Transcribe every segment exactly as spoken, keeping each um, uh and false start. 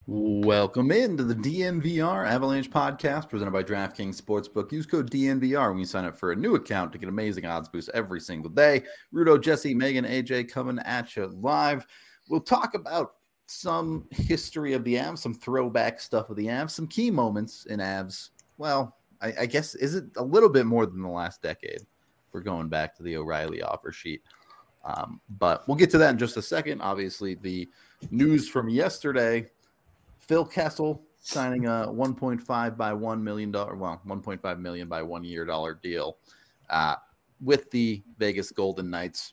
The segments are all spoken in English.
Welcome into the D N V R Avalanche podcast presented by DraftKings Sportsbook. Use code D N V R when you sign up for a new account to get amazing odds boosts every single day. Rudo, Jesse, Megan, A J coming at you live. We'll talk about some history of the Avs, some throwback stuff of the Avs, some key moments in Avs. Well, I, I guess, is it a little bit more than the last decade? We're going back to the O'Reilly offer sheet. Um, but we'll get to that in just a second. Obviously, the news from yesterday, Phil Kessel signing a one point five by one million dollars, well, one point five million by one year dollar deal uh, with the Vegas Golden Knights.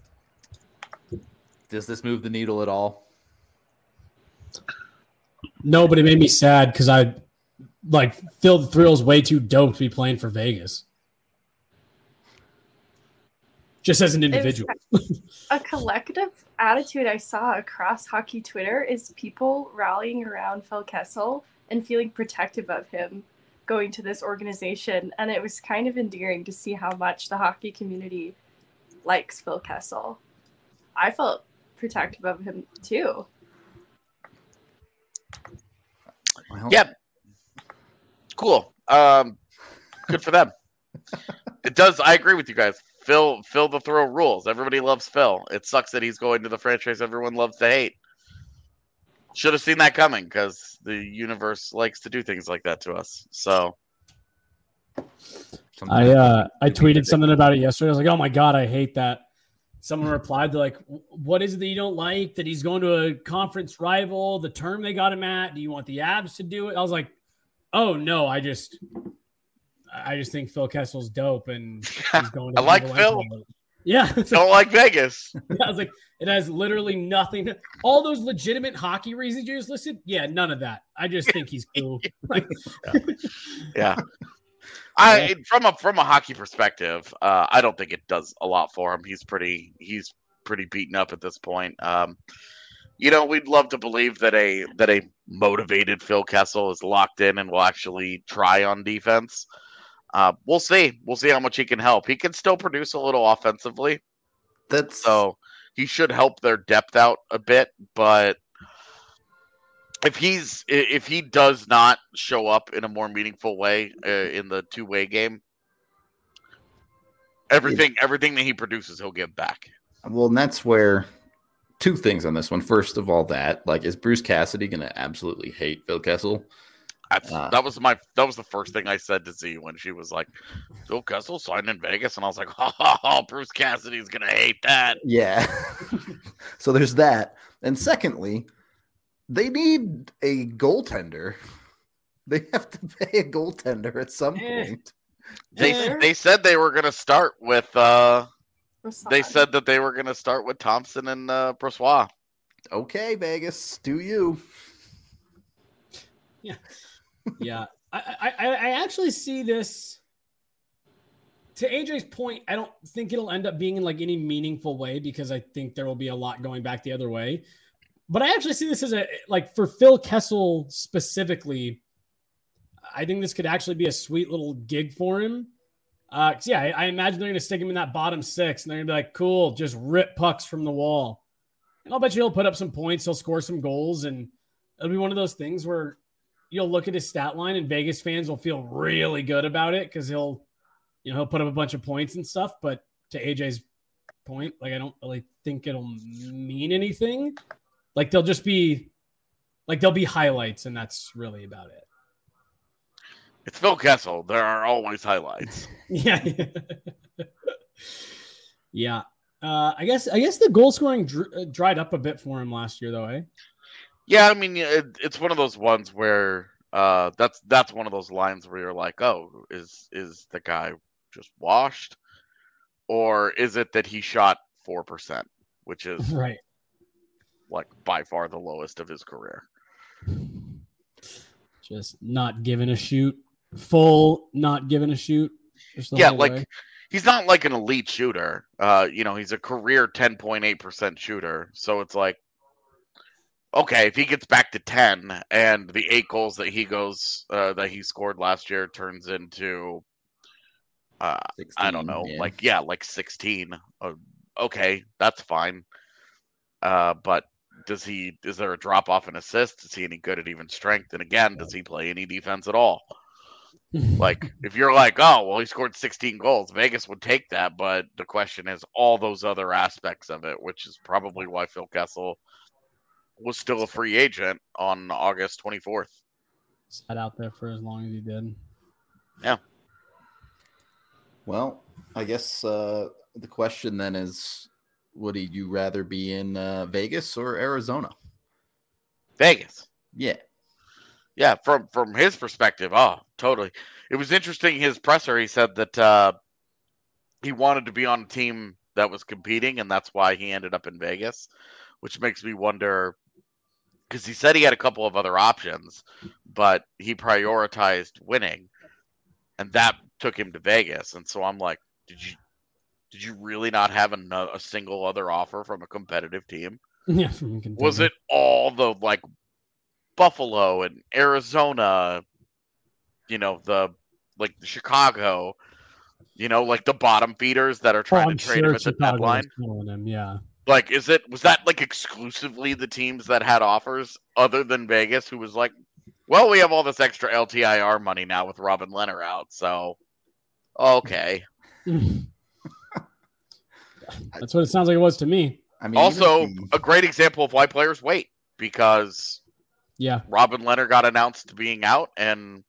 Does this move the needle at all? No, but it made me sad because I like Phil the Thrill's way too dope to be playing for Vegas. Just as an individual. A collective attitude I saw across hockey Twitter is people rallying around Phil Kessel and feeling protective of him going to this organization. And it was kind of endearing to see how much the hockey community likes Phil Kessel. I felt protective of him too. Well, yeah. Cool. Um, good for them. It does. I agree with you guys. Phil, Phil the Thrill rules. Everybody loves Phil. It sucks that he's going to the franchise everyone loves to hate. Should have seen that coming because the universe likes to do things like that to us. So, I uh, I tweeted something about it yesterday. I was like, "Oh my god, I hate that." Someone replied, "They're like, what is it that you don't like? That he's going to a conference rival? The term they got him at? Do you want the Avs to do it?" I was like, "Oh no, I just." I just think Phil Kessel's dope, and he's going to I like Phil. Yeah, don't like Vegas. I was like, it has literally nothing. To, all those legitimate hockey reasons you just listed, yeah, none of that. I just think he's cool. Like, yeah. yeah, I from a from a hockey perspective, uh, I don't think it does a lot for him. He's pretty he's pretty beaten up at this point. Um, you know, we'd love to believe that a that a motivated Phil Kessel is locked in and will actually try on defense. Uh, we'll see. We'll see how much he can help. He can still produce a little offensively. That's so he should help their depth out a bit. But if he's if he does not show up in a more meaningful way uh, in the two way game, everything yeah. everything that he produces, he'll give back. Well, and that's where two things on this one. First of all, that like is Bruce Cassidy going to absolutely hate Phil Kessel? Uh, that was my. That was the first thing I said to Z when she was like, "Phil Kessel signed in Vegas," and I was like, "Oh, Bruce Cassidy's gonna hate that." Yeah. So there's that, and secondly, they need a goaltender. They have to pay a goaltender at some eh. point. They eh. they said they were gonna start with. Uh, they said that they were gonna start with Thompson and uh, Brossoit. Okay, Vegas, do you? Yeah. Yeah, I, I I actually see this. To A J's point, I don't think it'll end up being in like any meaningful way because I think there will be a lot going back the other way. But I actually see this as a like for Phil Kessel specifically. I think this could actually be a sweet little gig for him. Uh, yeah, I, I imagine they're going to stick him in that bottom six, and they're going to be like, "Cool, just rip pucks from the wall." And I'll bet you he'll put up some points, he'll score some goals, and it'll be one of those things where you'll look at his stat line and Vegas fans will feel really good about it because he'll, you know, he'll put up a bunch of points and stuff. But to A J's point, like, I don't really think it'll mean anything. Like, they'll just be, like, there'll be highlights, and that's really about it. It's Phil Kessel. There are always highlights. yeah. yeah. Uh, I guess I guess the goal scoring dr- dried up a bit for him last year, though, eh? Yeah, I mean, it, it's one of those ones where uh, that's that's one of those lines where you're like, oh, is is the guy just washed, or is it that he shot four percent, which is right, like by far the lowest of his career. Just not giving a shoot, full not giving a shoot. Yeah, like way. He's not like an elite shooter. Uh, you know, he's a career ten point eight percent shooter, so it's like. Okay, if he gets back to ten and the eight goals that he goes uh, that he scored last year turns into, uh, sixteen, I don't know, yeah. like yeah, like sixteen. Uh, okay, that's fine. Uh, but does he is there a drop off in assists? Is he any good at even strength? And again, does he play any defense at all? Like, if you're like, oh, well, he scored sixteen goals, Vegas would take that. But the question is all those other aspects of it, which is probably why Phil Kessel was still a free agent on August twenty-fourth. Sat out there for as long as he did. Yeah. Well, I guess uh, the question then is, would you rather be in uh, Vegas or Arizona? Vegas. Yeah. Yeah, from from his perspective, oh, totally. It was interesting. His presser, he said that uh, he wanted to be on a team that was competing, and that's why he ended up in Vegas, which makes me wonder, because he said he had a couple of other options, but he prioritized winning, and that took him to Vegas. And so I'm like, did you did you really not have a, a single other offer from a competitive team? Yeah, from Kentucky. Was it all the like Buffalo and Arizona, you know, the like the Chicago, you know, like the bottom feeders that are trying oh, to trade sure him at the Chicago deadline? him, yeah. Like, is it was that like exclusively the teams that had offers other than Vegas, who was like, well, we have all this extra L T I R money now with Robin Leonard out, so okay. That's what it sounds like it was to me. I mean, also, he... a great example of why players wait, because yeah, Robin Leonard got announced being out, and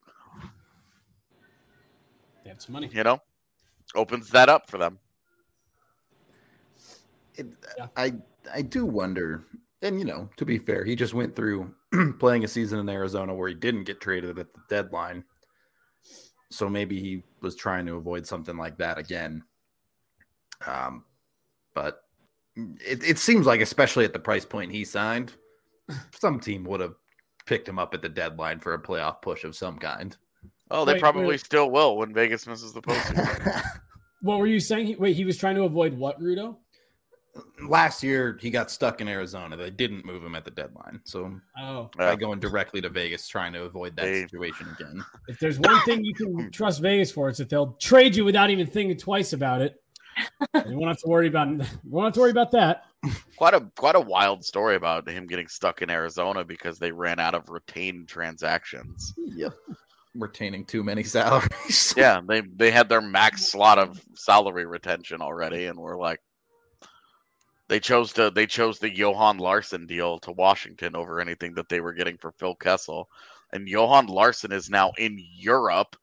they have some money. You know, opens that up for them. It, yeah. I I do wonder, and you know, to be fair, he just went through playing a season in Arizona where he didn't get traded at the deadline, so maybe he was trying to avoid something like that again. Um, but it it seems like, especially at the price point he signed, some team would have picked him up at the deadline for a playoff push of some kind. Oh, they wait, probably wait. still will when Vegas misses the postseason. What were you saying? He, wait, he was trying to avoid what, Rudo? Last year, he got stuck in Arizona. They didn't move him at the deadline. So oh. by going directly to Vegas, trying to avoid that they... situation again. If there's one thing you can trust Vegas for, it's that they'll trade you without even thinking twice about it. You won't have to worry about. You won't have to worry about that. Quite a quite a wild story about him getting stuck in Arizona because they ran out of retained transactions. Yep, retaining too many salaries. Yeah, they they had their max slot of salary retention already, and we're like, they chose to they chose the Johan Larsson deal to Washington over anything that they were getting for Phil Kessel, and Johan Larsson is now in Europe.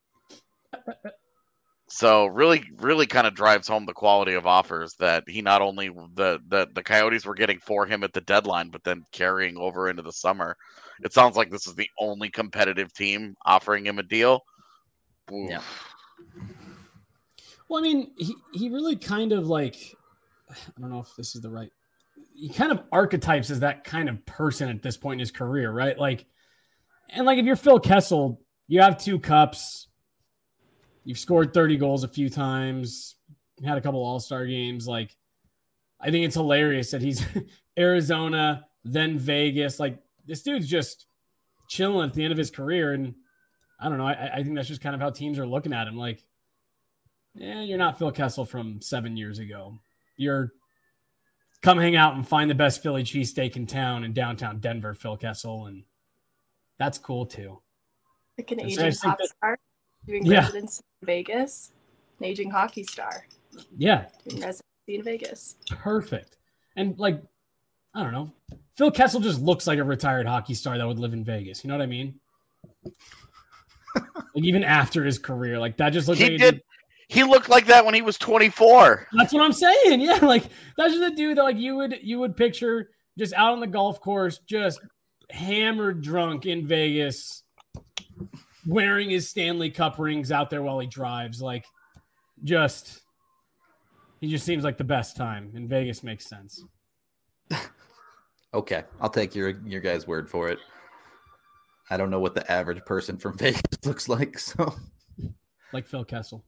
So really, really kind of drives home the quality of offers that he not only the, the the Coyotes were getting for him at the deadline, but then carrying over into the summer. It sounds like this is the only competitive team offering him a deal. Oof. Yeah. Well, I mean, he, he really kind of like, I don't know if this is the right, he kind of archetypes as that kind of person at this point in his career, right? Like, and like if you're Phil Kessel, you have two cups. You've scored thirty goals a few times, had a couple all-star games. Like, I think it's hilarious that he's Arizona, then Vegas. Like, this dude's just chilling at the end of his career. And I don't know. I, I think that's just kind of how teams are looking at him. Like, yeah, you're not Phil Kessel from seven years ago. You're come hang out and find the best Philly cheesesteak in town in downtown Denver, Phil Kessel. And that's cool too. Like an And aging so pop that, star doing yeah. residency in Vegas, an aging hockey star. Yeah. Doing residency in Vegas. Perfect. And like, I don't know. Phil Kessel just looks like a retired hockey star that would live in Vegas. You know what I mean? Like even after his career, like that just looks he like did. He looked like that when he was twenty-four. That's what I'm saying. Yeah, like that's just a dude that like you would you would picture just out on the golf course, just hammered drunk in Vegas, wearing his Stanley Cup rings out there while he drives. Like, just he just seems like the best time, and Vegas makes sense. Okay, I'll take your your guys' word for it. I don't know what the average person from Vegas looks like, so like Phil Kessel.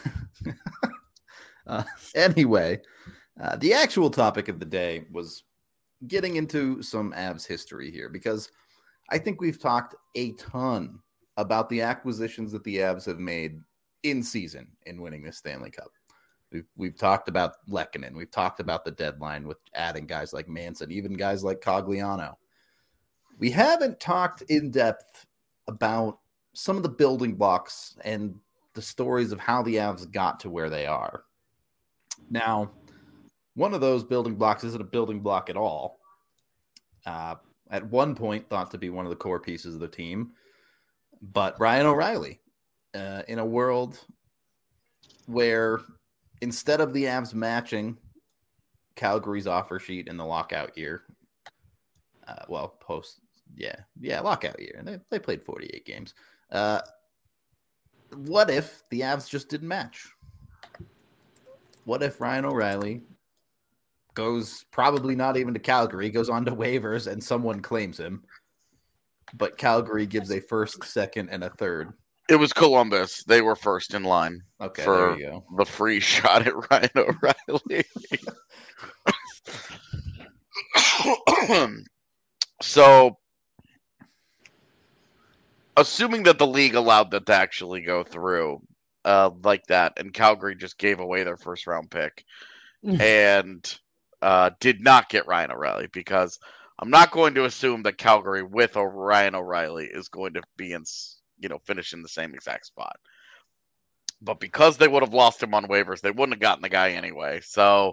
uh, anyway, uh, the actual topic of the day was getting into some Avs history here, because I think we've talked a ton about the acquisitions that the Avs have made in season in winning this Stanley Cup. We've, we've talked about Lehkonen. We've talked about the deadline with adding guys like Manson, even guys like Cogliano. We haven't talked in depth about some of the building blocks and the stories of how the Avs got to where they are. Now, one of those building blocks isn't a building block at all. Uh, at one point, thought to be one of the core pieces of the team, but Ryan O'Reilly, uh, in a world where instead of the Avs matching Calgary's offer sheet in the lockout year, uh, well, post, yeah, yeah, lockout year, and they, they played forty-eight games. Uh, what if the Avs just didn't match? What if Ryan O'Reilly goes probably not even to Calgary, goes on to waivers, and someone claims him, but Calgary gives a first, second, and a third? It was Columbus. They were first in line okay, for there you go. the free shot at Ryan O'Reilly. So, assuming that the league allowed that to actually go through uh, like that, and Calgary just gave away their first round pick and uh, did not get Ryan O'Reilly, because I'm not going to assume that Calgary with Ryan O'Reilly is going to be in, you know, finish in the same exact spot. But because they would have lost him on waivers, they wouldn't have gotten the guy anyway. So,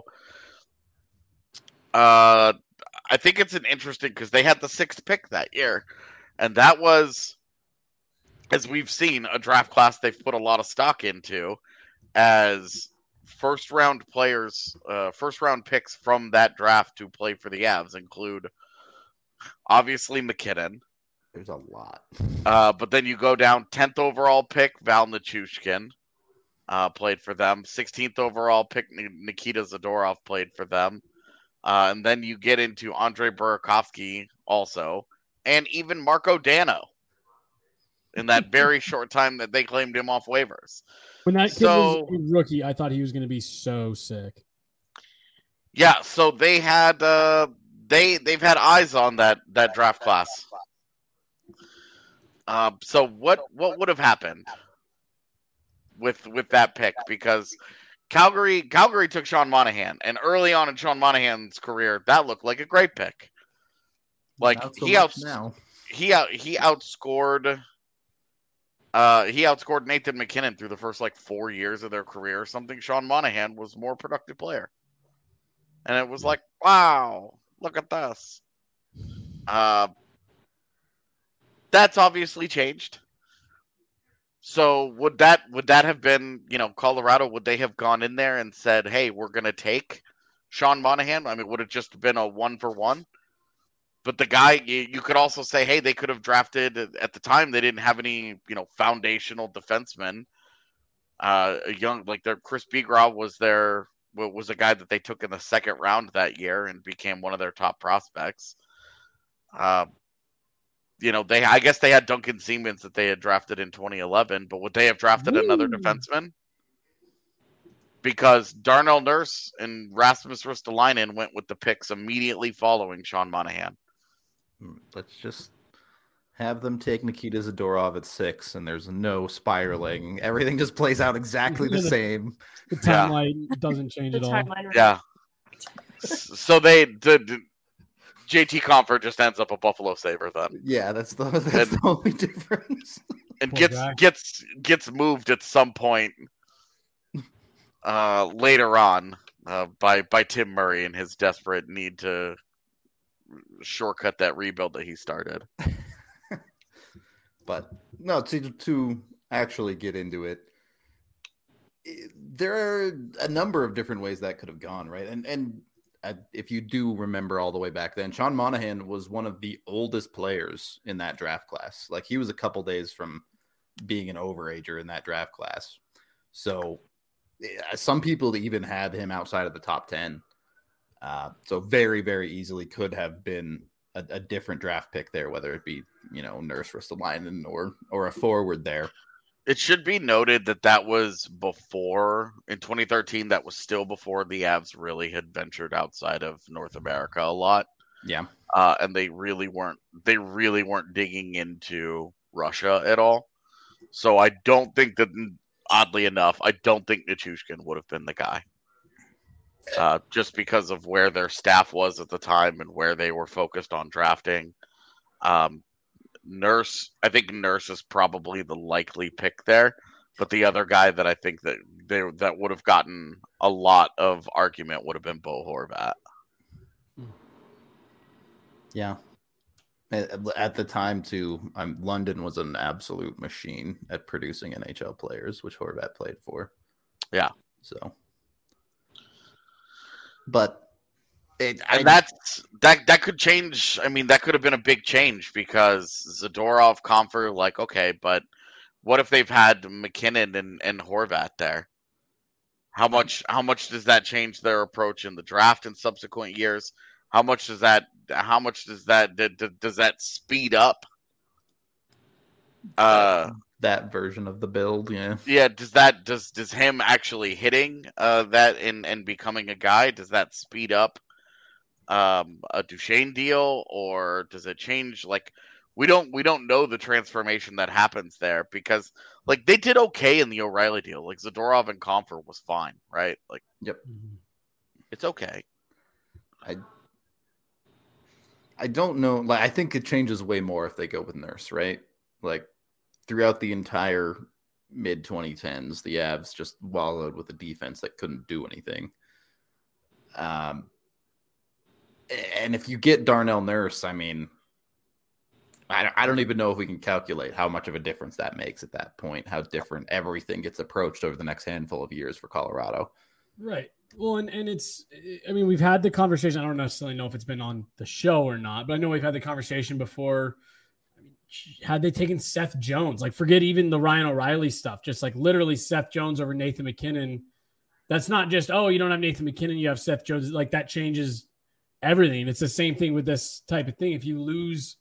uh, I think it's an interesting, because they had the sixth pick that year, and that was, as we've seen, a draft class they've put a lot of stock into as first round players, uh, first round picks from that draft to play for the Avs include obviously McKinnon. There's a lot. Uh, but then you go down tenth overall pick, Val Nichushkin uh, played for them. sixteenth overall pick, Nikita Zadorov played for them. Uh, and then you get into Andre Burakovsky also, and even Marco Dano in that very short time that they claimed him off waivers. When that kid so, was a rookie, I thought he was going to be so sick. Yeah, so they had uh, they they've had eyes on that that draft class. Uh, so what what would have happened with with that pick? Because Calgary Calgary took Sean Monahan, and early on in Sean Monahan's career, that looked like a great pick. Like so he out now. he out he outscored. Uh, he outscored Nathan McKinnon through the first like four years of their career or something. Sean Monahan was a more productive player. And it was like, wow, look at this. Uh, that's obviously changed. So would that would that have been, you know, Colorado, would they have gone in there and said, hey, we're going to take Sean Monahan? I mean, would it just been a one for one? But the guy, you could also say, hey, they could have drafted, at the time, they didn't have any, you know, foundational defensemen. Uh, a young, like their Chris Bigra was their, was a guy that they took in the second round that year and became one of their top prospects. Uh, you know, they, I guess they had Duncan Siemens that they had drafted in twenty eleven, but would they have drafted Ooh. another defenseman? Because Darnell Nurse and Rasmus Ristolainen went with the picks immediately following Sean Monahan. Let's just have them take Nikita Zadorov at six, and there's no spiraling. Everything just plays out exactly the same. The timeline yeah. doesn't change the at all. Timeline yeah. So they the J T Compher just ends up a Buffalo Sabre then. Yeah, that's the that's and, the only difference. And Poor gets guy. gets gets moved at some point uh, later on uh, by by Tim Murray and his desperate need to shortcut that rebuild that he started. But no, to to actually get into it, there are a number of different ways that could have gone, right? And and if you do remember all the way back then, Sean Monahan was one of the oldest players in that draft class. Like he was a couple days from being an overager in that draft class. So some people even had him outside of the top ten. Uh, so very, very easily could have been a, a different draft pick there, whether it be, you know, Nurse Ristolainen or or a forward there. It should be noted that that was before, in twenty thirteen, that was still before the Avs really had ventured outside of North America a lot. Yeah. Uh, and they really weren't, they really weren't digging into Russia at all. So I don't think that oddly enough, I don't think Nichushkin would have been the guy. Uh, just because of where their staff was at the time and where they were focused on drafting. Um, Nurse, I think Nurse is probably the likely pick there, but the other guy that I think that they that would have gotten a lot of argument would have been Bo Horvat. Yeah. At the time, too, um, London was an absolute machine at producing N H L players, which Horvat played for. Yeah. So, but it, and I, that's that that could change. I mean, that could have been a big change because Zadorov, Compher, like, okay, but what if they've had McKinnon and, and Horvat there? How much how much does that change their approach in the draft in subsequent years? How much does that how much does that does that speed up uh that version of the build? Yeah. Yeah, does that does does him actually hitting uh that and and becoming a guy, does that speed up um a Duchesne deal, or does it change? Like, we don't we don't know the transformation that happens there, because like they did okay in the O'Reilly deal. Like Zadorov and Compher was fine, right? Like, yep, it's okay. I I don't know. Like, I think it changes way more if they go with Nurse, right? Like, throughout the entire mid twenty tens, the Avs just wallowed with a defense that couldn't do anything. Um, and if you get Darnell Nurse, I mean, I, I don't even know if we can calculate how much of a difference that makes at that point, how different everything gets approached over the next handful of years for Colorado. Right. Well, and, and it's, I mean, we've had the conversation. I don't necessarily know if it's been on the show or not, but I know we've had the conversation before. I mean, had they taken Seth Jones, like, forget even the Ryan O'Reilly stuff, just like literally Seth Jones over Nathan McKinnon. That's not just, oh, you don't have Nathan McKinnon, you have Seth Jones. Like, that changes everything. It's the same thing with this type of thing. If you lose,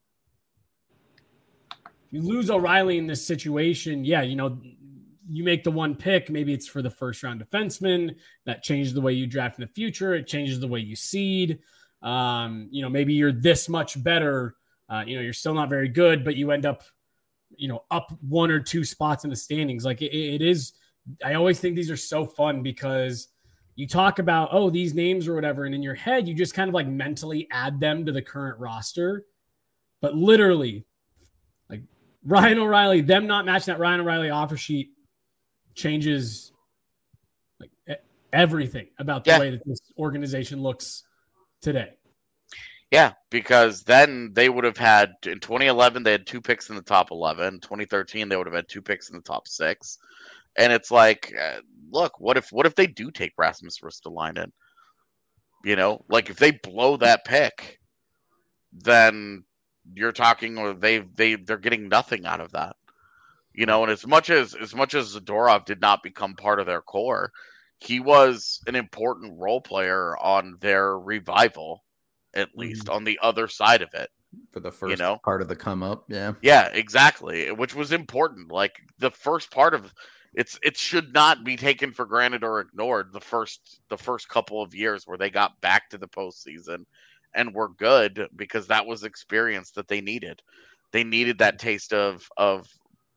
if you lose O'Reilly in this situation, yeah, you know, you make the one pick, maybe it's for the first round defenseman. That changes the way you draft in the future. It changes the way you seed. Um, you know, maybe you're this much better. Uh, you know, you're still not very good, but you end up, you know, up one or two spots in the standings. Like it, it is, I always think these are so fun because you talk about, oh, these names or whatever. And in your head, you just kind of like mentally add them to the current roster. But literally, like Ryan O'Reilly, them not matching that Ryan O'Reilly offer sheet changes like everything about the yeah. way that this organization looks today. Yeah, because then they would have had, in twenty eleven, they had two picks in the top eleven. twenty thirteen, they would have had two picks in the top six. And it's like, uh, look, what if what if they do take Rasmus Ristolainen? You know, like if they blow that pick, then you're talking, or they they they're getting nothing out of that. You know, and as much as as much as Zadorov did not become part of their core, he was an important role player on their revival, at least mm-hmm. on the other side of it. For the first you know? part of the come up, yeah. Yeah, exactly. Which was important. Like the first part of it's it should not be taken for granted or ignored. The first the first couple of years where they got back to the postseason and were good, because that was experience that they needed. They needed that taste of of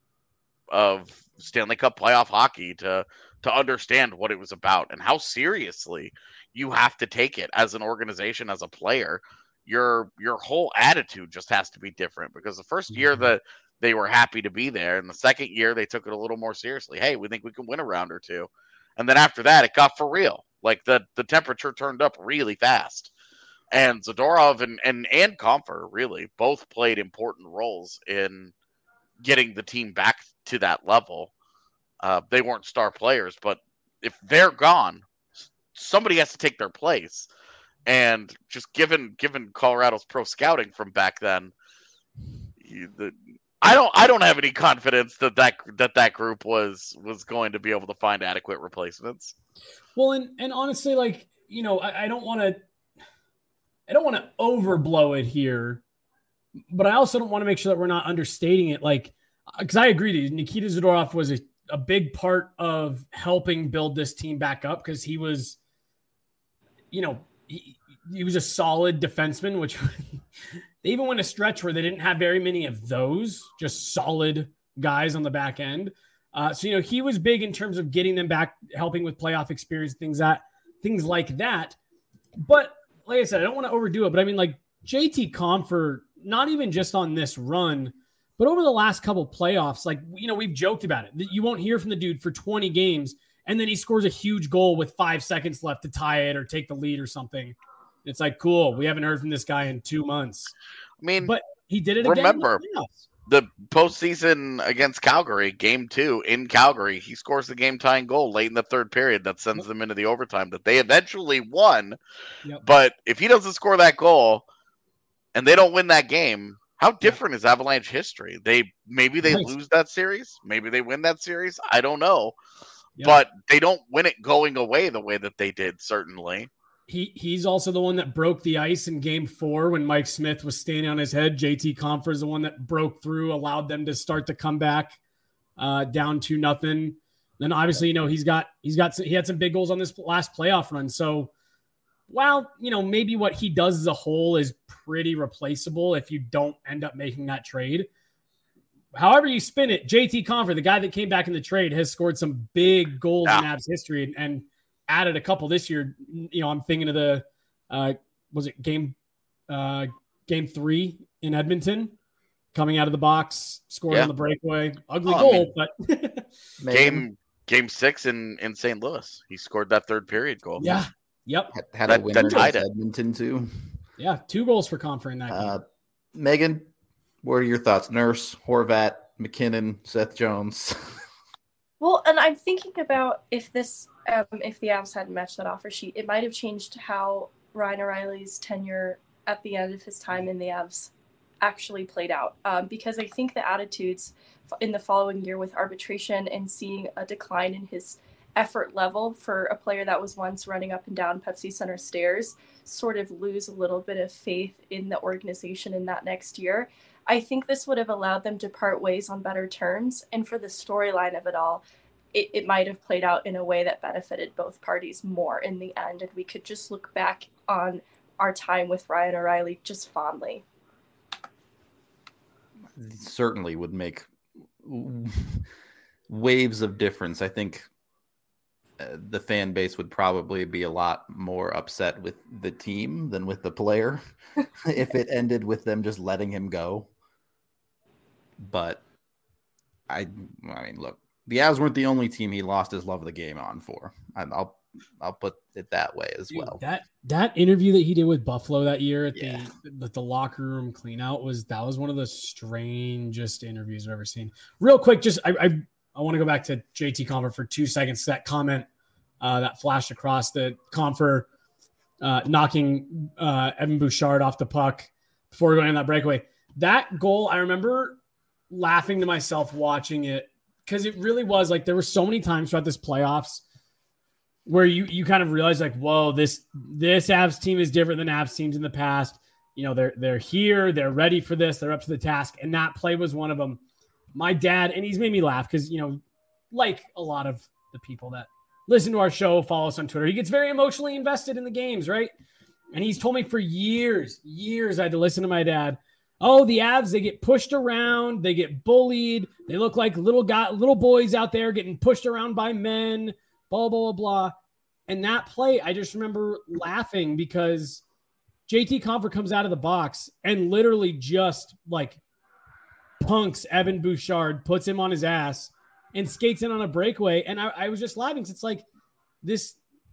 of Stanley Cup playoff hockey to to understand what it was about and how seriously you have to take it as an organization, as a player. Your your whole attitude just has to be different, because the first year Mm-hmm. that they were happy to be there, and the second year they took it a little more seriously. Hey, we think we can win a round or two. And then after that, it got for real. Like the the temperature turned up really fast. And Zadorov and and, and Compher really both played important roles in getting the team back to that level. Uh, they weren't star players, but if they're gone, somebody has to take their place. And just given given Colorado's pro scouting from back then, you, the, I don't I don't have any confidence that that, that that group was was going to be able to find adequate replacements. Well, and and honestly, like, you know, I, I don't want to I don't want to overblow it here, but I also don't want to make sure that we're not understating it. Like, because I agree with you, Nikita Zadorov was a, a big part of helping build this team back up, because he was, you know, he, he was a solid defenseman, which they even went a stretch where they didn't have very many of those, just solid guys on the back end. Uh, so, you know, he was big in terms of getting them back, helping with playoff experience, things that, things like that. But like I said, I don't want to overdo it, but I mean, like J T Compher, not even just on this run, but over the last couple playoffs, like, you know, we've joked about it. You won't hear from the dude for twenty games, and then he scores a huge goal with five seconds left to tie it or take the lead or something. It's like, cool, we haven't heard from this guy in two months. I mean, but he did it remember, again. Remember, the postseason against Calgary, game two in Calgary, he scores the game-tying goal late in the third period that sends yep. them into the overtime that they eventually won. Yep. But if he doesn't score that goal and they don't win that game, how different yep. is Avalanche history? They maybe they nice. lose that series, maybe they win that series. I don't know, yep. but they don't win it going away the way that they did. Certainly. He he's also the one that broke the ice in game four when Mike Smith was standing on his head. J T Compher is the one that broke through, allowed them to start the comeback uh, down to nothing. Then obviously, you know, he's got, he's got, he had some big goals on this last playoff run. So while, you know, maybe what he does as a whole is pretty replaceable if you don't end up making that trade. However you spin it, J T Compher, the guy that came back in the trade, has scored some big goals yeah. in Avs history and, and added a couple this year. You know, I'm thinking of the, uh, was it game, uh, game three in Edmonton, coming out of the box, scoring yeah. on the breakaway, ugly oh, goal, I mean, but game, game six in, in Saint Louis, he scored that third period goal. Yeah. Yep. Had, had that, a winner that Edmonton too. Yeah. Two goals for Compher in that game. Uh, Megan, what are your thoughts? Nurse, Horvat, McKinnon, Seth Jones. Well, and I'm thinking about if this, um, if the Avs hadn't matched that offer sheet, it might have changed how Ryan O'Reilly's tenure at the end of his time in the Avs actually played out. Um, because I think the attitudes in the following year with arbitration and seeing a decline in his effort level for a player that was once running up and down Pepsi Center stairs sort of lose a little bit of faith in the organization in that next year. I think this would have allowed them to part ways on better terms. And for the storyline of it all, it, it might have played out in a way that benefited both parties more in the end. And we could just look back on our time with Ryan O'Reilly just fondly. Certainly would make waves of difference. I think uh, the fan base would probably be a lot more upset with the team than with the player if it ended with them just letting him go. But I, I mean, look, the Avs weren't the only team he lost his love of the game on for. I, I'll, I'll put it that way as Dude, well. That that interview that he did with Buffalo that year at yeah. the the locker room clean out was that was one of the strangest interviews I've ever seen. Real quick, just I I, I want to go back to J T Compher for two seconds. That comment uh, that flashed across the Compher uh, knocking uh, Evan Bouchard off the puck before going on that breakaway. That goal, I remember laughing to myself watching it because it really was like there were so many times throughout this playoffs where you you kind of realize like, whoa, this this Avs team is different than Avs teams in the past. You know, they're they're here, they're ready for this, they're up to the task, and that play was one of them. My dad, and he's made me laugh because, you know, like a lot of the people that listen to our show, follow us on Twitter, he gets very emotionally invested in the games, right? And he's told me for years, years I had to listen to my dad. Oh, the Avs, they get pushed around, they get bullied, they look like little guy, little boys out there getting pushed around by men, blah, blah, blah, blah. And that play, I just remember laughing because J T Compher comes out of the box and literally just like punks Evan Bouchard, puts him on his ass and skates in on a breakaway. And I, I was just laughing. It's like this,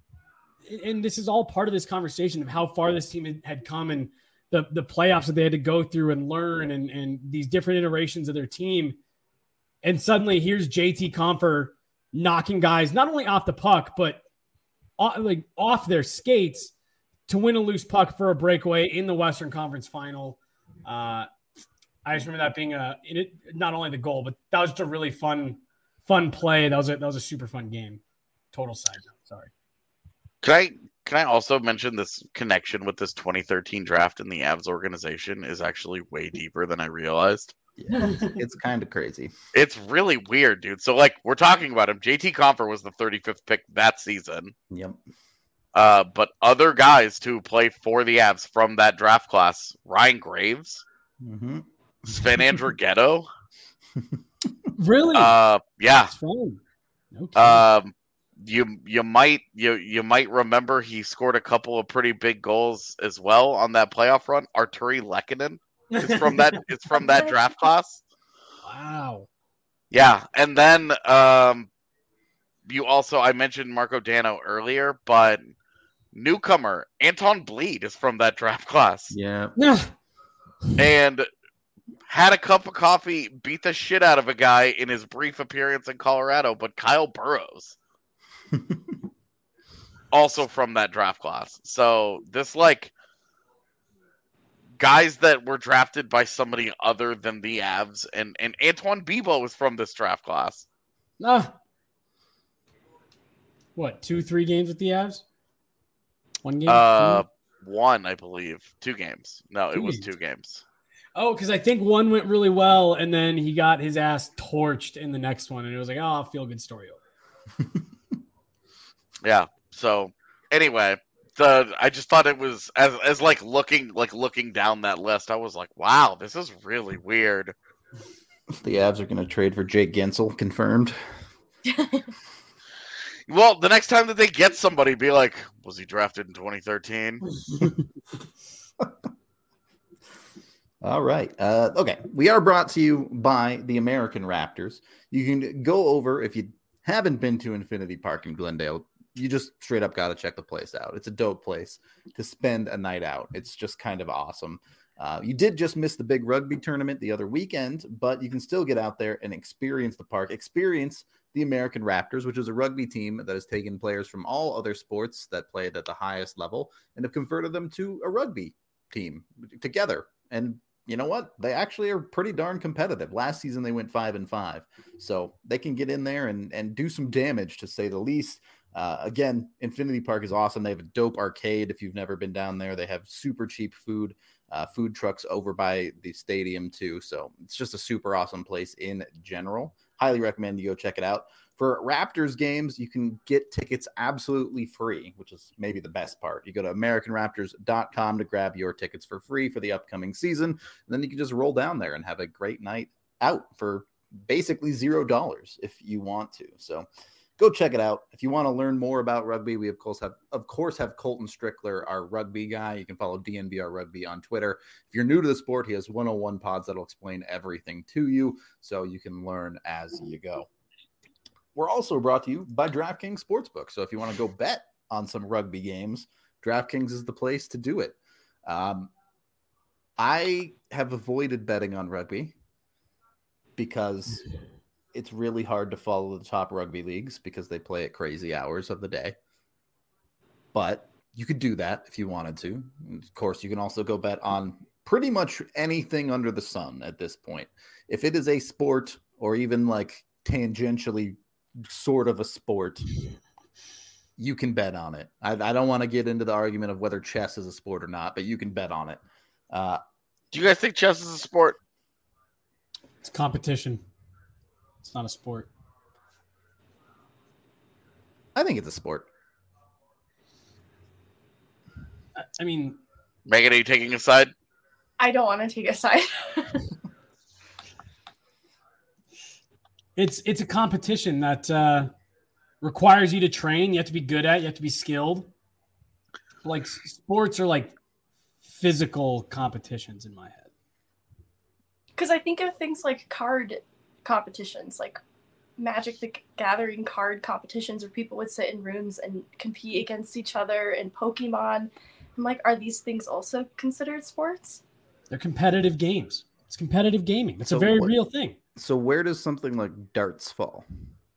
and this is all part of this conversation of how far this team had come and the, the playoffs that they had to go through and learn and, and these different iterations of their team. And suddenly here's J T Compher knocking guys not only off the puck, but off, like off their skates to win a loose puck for a breakaway in the Western Conference Final. Uh, I just remember that being a it, not only the goal, but that was just a really fun, fun play. That was a, that was a super fun game. Total side note. Sorry. Can I can I also mention this connection with this twenty thirteen draft in the Avs organization is actually way deeper than I realized. Yeah, it's, it's kind of crazy. It's really weird, dude. So, like, we're talking about him. J T Compher was the thirty-fifth pick that season. Yep. Uh, but other guys to play for the Avs from that draft class: Ryan Graves, mm-hmm. Sven Andrighetto, Really? Uh, yeah. That's fun. Okay. Um, you you might you you might remember he scored a couple of pretty big goals as well on that playoff run. Arturi Lehkonen is from that it's from that draft class. Wow. Yeah, and then um, you also I mentioned Marco Dano earlier, but newcomer Anton Bleed is from that draft class. Yeah. Yeah. And had a cup of coffee, beat the shit out of a guy in his brief appearance in Colorado, but Kyle Burrows. Also from that draft class. So this like guys that were drafted by somebody other than the Avs, and, and Antoine Bibeau was from this draft class. Ah. What, two, three games with the Avs? One game? Uh, Two? one, I believe. Two games. No, Two it was games. two games. Oh, because I think one went really well, and then he got his ass torched in the next one, and it was like, oh, feel good story over. Yeah. So anyway, the I just thought it was as as like looking like looking down that list, I was like, wow, this is really weird. The Avs are going to trade for Jake Gensel, confirmed. Well, the next time that they get somebody, be like, was he drafted in twenty thirteen? All right. Uh, okay. We are brought to you by the American Raptors. You can go over, if you haven't been to Infinity Park in Glendale, you just straight up got to check the place out. It's a dope place to spend a night out. It's just kind of awesome. Uh, you did just miss the big rugby tournament the other weekend, but you can still get out there and experience the park, experience the American Raptors, which is a rugby team that has taken players from all other sports that played at the highest level and have converted them to a rugby team together. And you know what? They actually are pretty darn competitive. Last season, they went five and five. So they can get in there and, and do some damage, to say the least. Uh, again, Infinity Park is awesome. They have a dope arcade. If you've never been down there, they have super cheap food, uh, food trucks over by the stadium too. So it's just a super awesome place in general. Highly recommend you go check it out. For Raptors games, you can get tickets absolutely free, which is maybe the best part. You go to American Raptors dot com to grab your tickets for free for the upcoming season. And then you can just roll down there and have a great night out for basically zero dollars if you want to. So go check it out. If you want to learn more about rugby, we of course have, of course, have Colton Strickler, our rugby guy. You can follow D N V R Rugby on Twitter. If you're new to the sport, he has one oh one pods that'll explain everything to you, so you can learn as you go. We're also brought to you by DraftKings Sportsbook. So if you want to go bet on some rugby games, DraftKings is the place to do it. Um, I have avoided betting on rugby because it's really hard to follow the top rugby leagues because they play at crazy hours of the day. But you could do that if you wanted to. Of course, you can also go bet on pretty much anything under the sun at this point. If it is a sport or even like tangentially sort of a sport, you can bet on it. I, I don't want to get into the argument of whether chess is a sport or not, but you can bet on it. Uh, Do you guys think chess is a sport? It's competition. It's not a sport. I think it's a sport. I, I mean, Megan, are you taking a side? I don't want to take a side. it's it's a competition that uh, requires you to train. You have to be good at. You have to be skilled. Like s- sports are like physical competitions in my head. Because I think of things like card competitions, like Magic the Gathering card competitions where people would sit in rooms and compete against each other, and Pokemon. I'm like, are these things also considered sports? They're competitive games. It's competitive gaming. It's So a very what- real thing. So where does something like darts fall?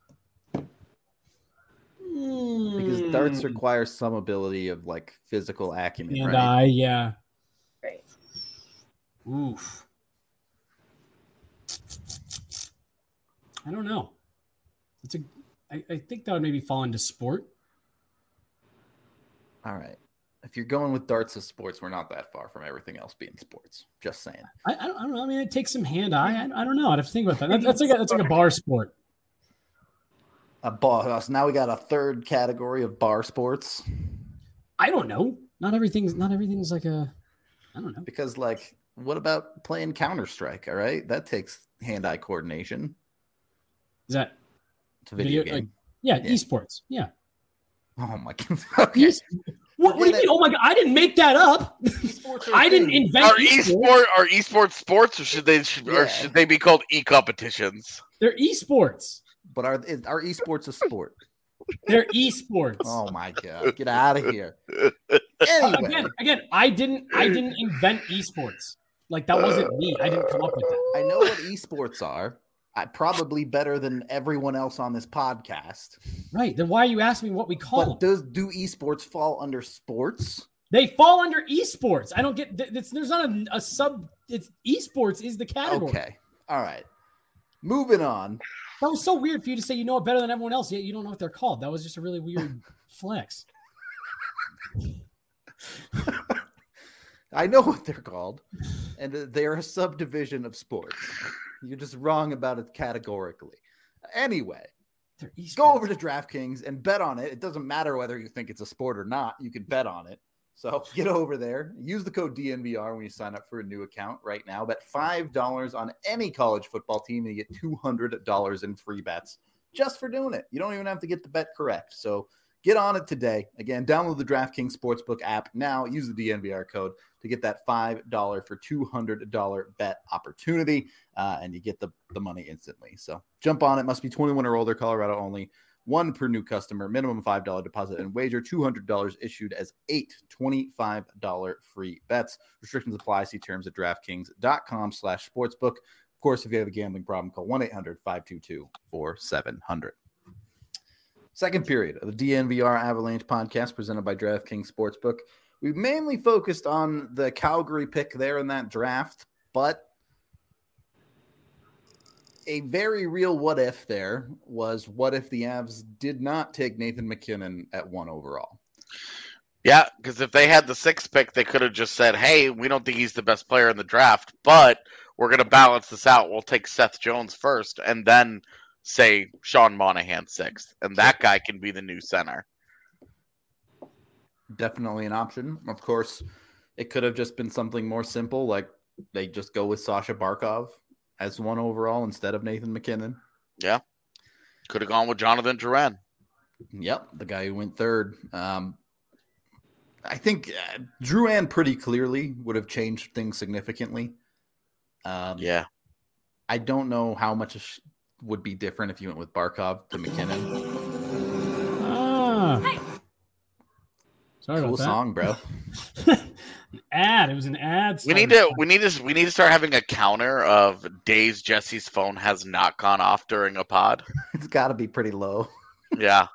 Because darts require some ability of like physical acumen, and right? I, yeah. Right. Oof. I don't know. It's a. I, I think that would maybe fall into sport. All right. If you're going with darts as sports, we're not that far from everything else being sports. Just saying. I, I, don't, I don't know. I mean, it takes some hand-eye. I, I don't know. I'd have to think about that. that that's like a, that's like a bar sport. A bar. So now we got a third category of bar sports. I don't know. Not everything's not everything's like a. I don't know. Because, like, what about playing Counter-Strike? All right, that takes hand-eye coordination. Is that It's a video, video game. like, yeah, Yeah. esports. Yeah. Oh my god. Okay. Es- what, what do you mean? Oh my god! I didn't make that up. Esports are I a didn't thing. invent Are esports. esport are esports sports, or should they should, or Yeah. should they be called e-competitions? They're esports. But are is- are esports a sport? They're esports. Oh my god. Get out of here. Anyway. Again, again, I didn't, I didn't invent esports. Like that wasn't me. I didn't come up with that. I know what esports are. I probably better than everyone else on this podcast. Right. Then why are you asking me what we call But them? does do esports fall under sports? They fall under esports. I don't get. th- It's, there's not a, a sub. It's esports is the category. Okay. All right. Moving on. That was so weird for you to say you know it better than everyone else. Yet you don't know what they're called. That was just a really weird flex. I know what they're called, and they're a subdivision of sports. You're just wrong about it categorically. Anyway, They're esports. go over to DraftKings and bet on it. It doesn't matter whether you think it's a sport or not. You can bet on it. So get over there. Use the code D N V R when you sign up for a new account right now. Bet five dollars on any college football team and you get two hundred dollars in free bets just for doing it. You don't even have to get the bet correct. So get on it today. Again, download the DraftKings Sportsbook app now. Use the D N V R code to get that five dollars for two hundred dollars bet opportunity, uh, and you get the, the money instantly. So jump on it. Must be twenty-one or older, Colorado only. One per new customer, minimum five dollars deposit and wager, two hundred dollars issued as eight twenty-five dollars free bets. Restrictions apply. See terms at DraftKings.com slash sportsbook. Of course, if you have a gambling problem, call one eight hundred five two two four seven zero zero. Second period of the D N V R Avalanche podcast presented by DraftKings Sportsbook. We've mainly focused on the Calgary pick there in that draft, but a very real what if there was what if the Avs did not take Nathan MacKinnon at one overall? Yeah, because if they had the sixth pick, they could have just said, hey, we don't think he's the best player in the draft, but we're going to balance this out. We'll take Seth Jones first and then say Sean Monahan sixth, and that guy can be the new center. Definitely an option. Of course, it could have just been something more simple, like they just go with Sasha Barkov as one overall instead of Nathan MacKinnon. Yeah. Could have gone with Jonathan Drouin. Yep, the guy who went third. Um, I think uh, Drouin pretty clearly would have changed things significantly. Um, Yeah. I don't know how much would be different if you went with Barkov to McKinnon. Ah. Sorry Cool about that. song, bro. An ad. It was an ad. We need to we need to we need to start having a counter of days Jesse's phone has not gone off during a pod. It's got to be pretty low. Yeah.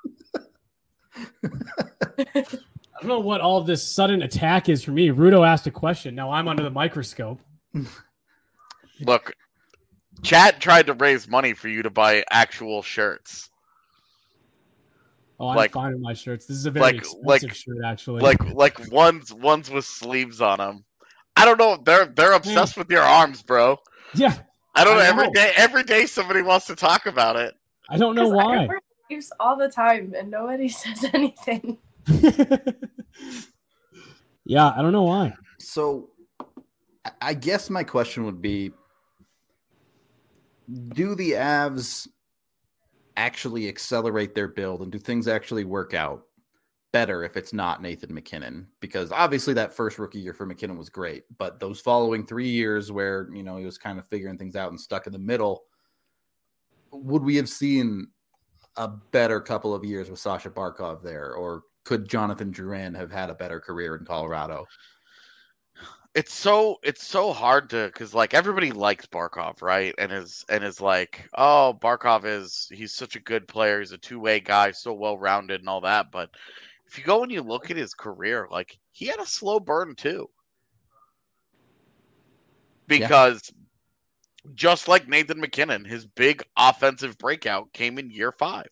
I don't know what all of this sudden attack is for me. Rudo asked a question. Now I'm under the microscope. Look, chat tried to raise money for you to buy actual shirts. Oh, I'm Like- fine with my shirts. This is a very like- expensive like- shirt, actually. Like like ones ones with sleeves on them. I don't know. They're they're obsessed with your arms, bro. yeah, I don't know. I Every know. day every day somebody wants to talk about it. I don't know 'Cause I why. wear sleeves all the time and nobody says anything. Yeah, I don't know why. So I- I guess my question would be, do the Avs actually accelerate their build and do things actually work out better if it's not Nathan MacKinnon? Because obviously that first rookie year for MacKinnon was great, but those following three years where, you know, he was kind of figuring things out and stuck in the middle, would we have seen a better couple of years with Sasha Barkov there? Or could Jonathan Drouin have had a better career in Colorado? It's so it's so hard to because like everybody likes Barkov, right? And is and is like, oh, Barkov is he's such a good player. He's a two way guy, so well rounded and all that. But if you go and you look at his career, like he had a slow burn too, because just like Nathan MacKinnon, his big offensive breakout came in year five,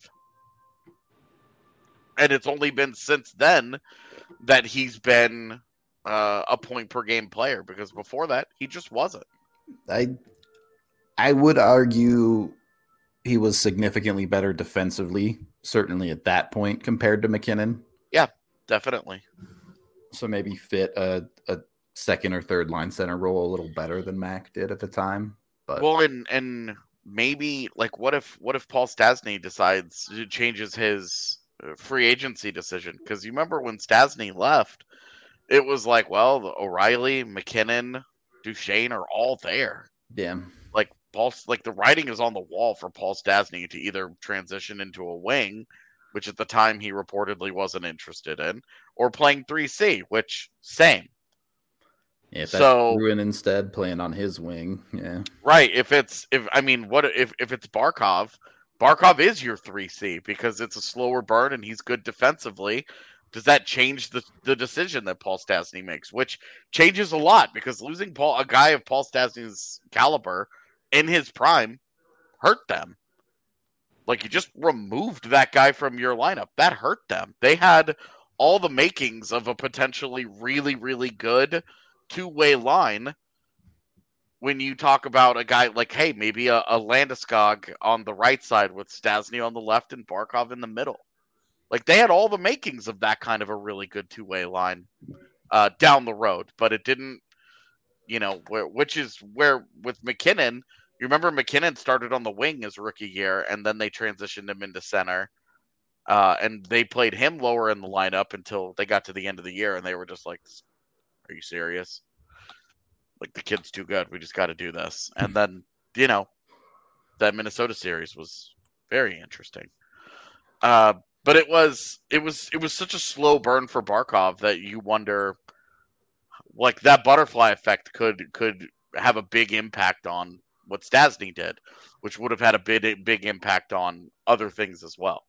and it's only been since then that he's been uh, a point per game player, because before that he just wasn't. I I would argue he was significantly better defensively, certainly at that point compared to MacKinnon. Definitely. So maybe fit a, a second or third line center role a little better than Mac did at the time. But Well, and and maybe like what if what if Paul Stastny decides changes his free agency decision? Because you remember when Stastny left, it was like, well, the O'Reilly, McKinnon, Duchesne are all there. Yeah. Like Paul, like the writing is on the wall for Paul Stastny to either transition into a wing, which at the time he reportedly wasn't interested in, or playing three C, which same. Yeah, if that's so Bruin instead playing on his wing, yeah. Right. If it's if I mean what if if it's Barkov, Barkov is your three C because it's a slower burn and he's good defensively. Does that change the, the decision that Paul Stastny makes? Which changes a lot because losing Paul a guy of Paul Stastny's caliber in his prime hurt them. Like you just removed that guy from your lineup. That hurt them. They had all the makings of a potentially really, really good two-way line when you talk about a guy like, hey, maybe a, a Landeskog on the right side with Stastny on the left and Barkov in the middle. Like they had all the makings of that kind of a really good two-way line uh, down the road, but it didn't, you know, where, which is where with McKinnon, you remember McKinnon started on the wing his rookie year and then they transitioned him into center uh, and they played him lower in the lineup until they got to the end of the year and they were just like, are you serious? Like the kid's too good. We just got to do this. And then, you know, that Minnesota series was very interesting. Uh, but it was, it was, it was such a slow burn for Barkov that you wonder, like that butterfly effect could, could have a big impact on what Stastny did, which would have had a big, big impact on other things as well.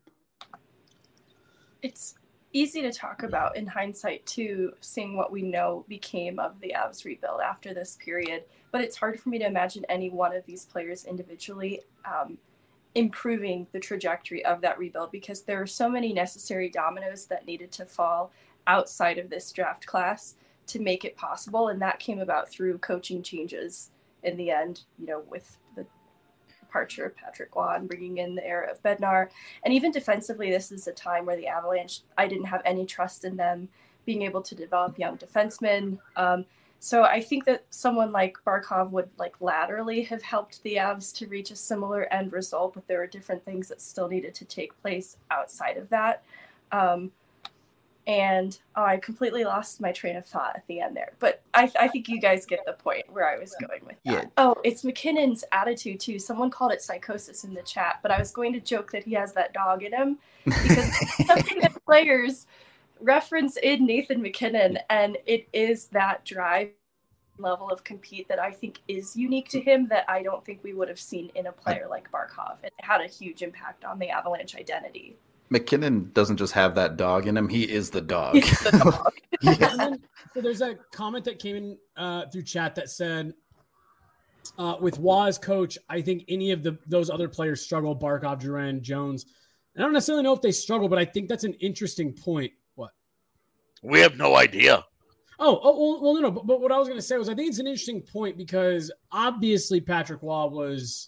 It's easy to talk about in hindsight too, seeing what we know became of the Avs rebuild after this period, but it's hard for me to imagine any one of these players individually um, improving the trajectory of that rebuild because there are so many necessary dominoes that needed to fall outside of this draft class to make it possible, and that came about through coaching changes in the end, you know, with the departure of Patrick Roy and bringing in the era of Bednar. And even defensively, this is a time where the Avalanche, I didn't have any trust in them being able to develop young defensemen. Um, so I think that someone like Barkov would like laterally have helped the Avs to reach a similar end result, but there are different things that still needed to take place outside of that. Um, And oh, I completely lost my train of thought at the end there. But I, I think you guys get the point where I was going with that. Yeah. Oh, it's McKinnon's attitude, too. Someone called it psychosis in the chat, but I was going to joke that he has that dog in him because something that players reference in Nathan McKinnon, and it is that drive level of compete that I think is unique to him that I don't think we would have seen in a player like Barkov. It had a huge impact on the Avalanche identity. McKinnon doesn't just have that dog in him. He is the dog. He's the dog. Yeah. And then, so there's a comment that came in uh, through chat that said, uh, with Waz coach, I think any of the those other players struggle, Barkov, Duran, Jones. I don't necessarily know if they struggle, but I think that's an interesting point. What? We have no idea. Oh, oh well, well no, no. But, but what I was going to say was I think it's an interesting point because obviously Patrick Roy was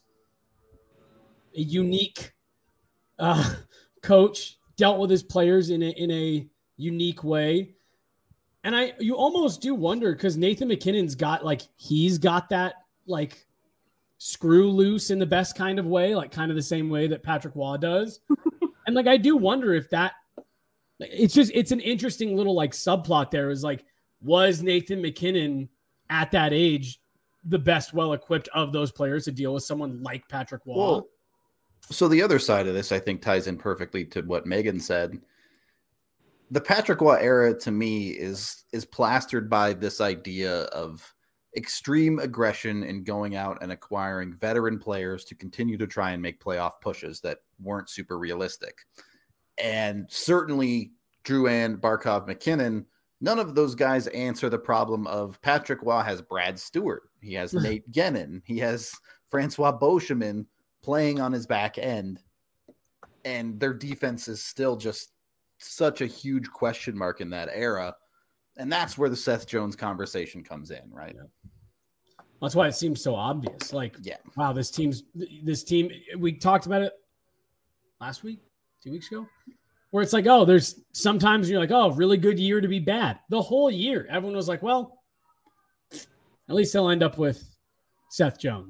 a unique uh, – coach, dealt with his players in a in a unique way. And I you almost do wonder because Nathan McKinnon's got like he's got that like screw loose in the best kind of way, like kind of the same way that Patrick Roy does. And like I do wonder if that it's just it's an interesting little like subplot there is like, was Nathan McKinnon at that age the best well equipped of those players to deal with someone like Patrick Roy? Well, so the other side of this, I think, ties in perfectly to what Megan said. The Patrick Roy era, to me, is is plastered by this idea of extreme aggression in going out and acquiring veteran players to continue to try and make playoff pushes that weren't super realistic. And certainly Drouin, Barkov, McKinnon, none of those guys answer the problem of Patrick Roy has Brad Stewart. He has Nate Gennin. He has Francois Beauchemin playing on his back end, and their defense is still just such a huge question mark in that era. And that's where the Seth Jones conversation comes in, right? Yeah. That's why it seems so obvious. Like, yeah, wow, this team's this team, we talked about it last week, two weeks ago, where it's like, oh, there's sometimes you're like, oh, really good year to be bad. The whole year, everyone was like, well, at least they'll end up with Seth Jones.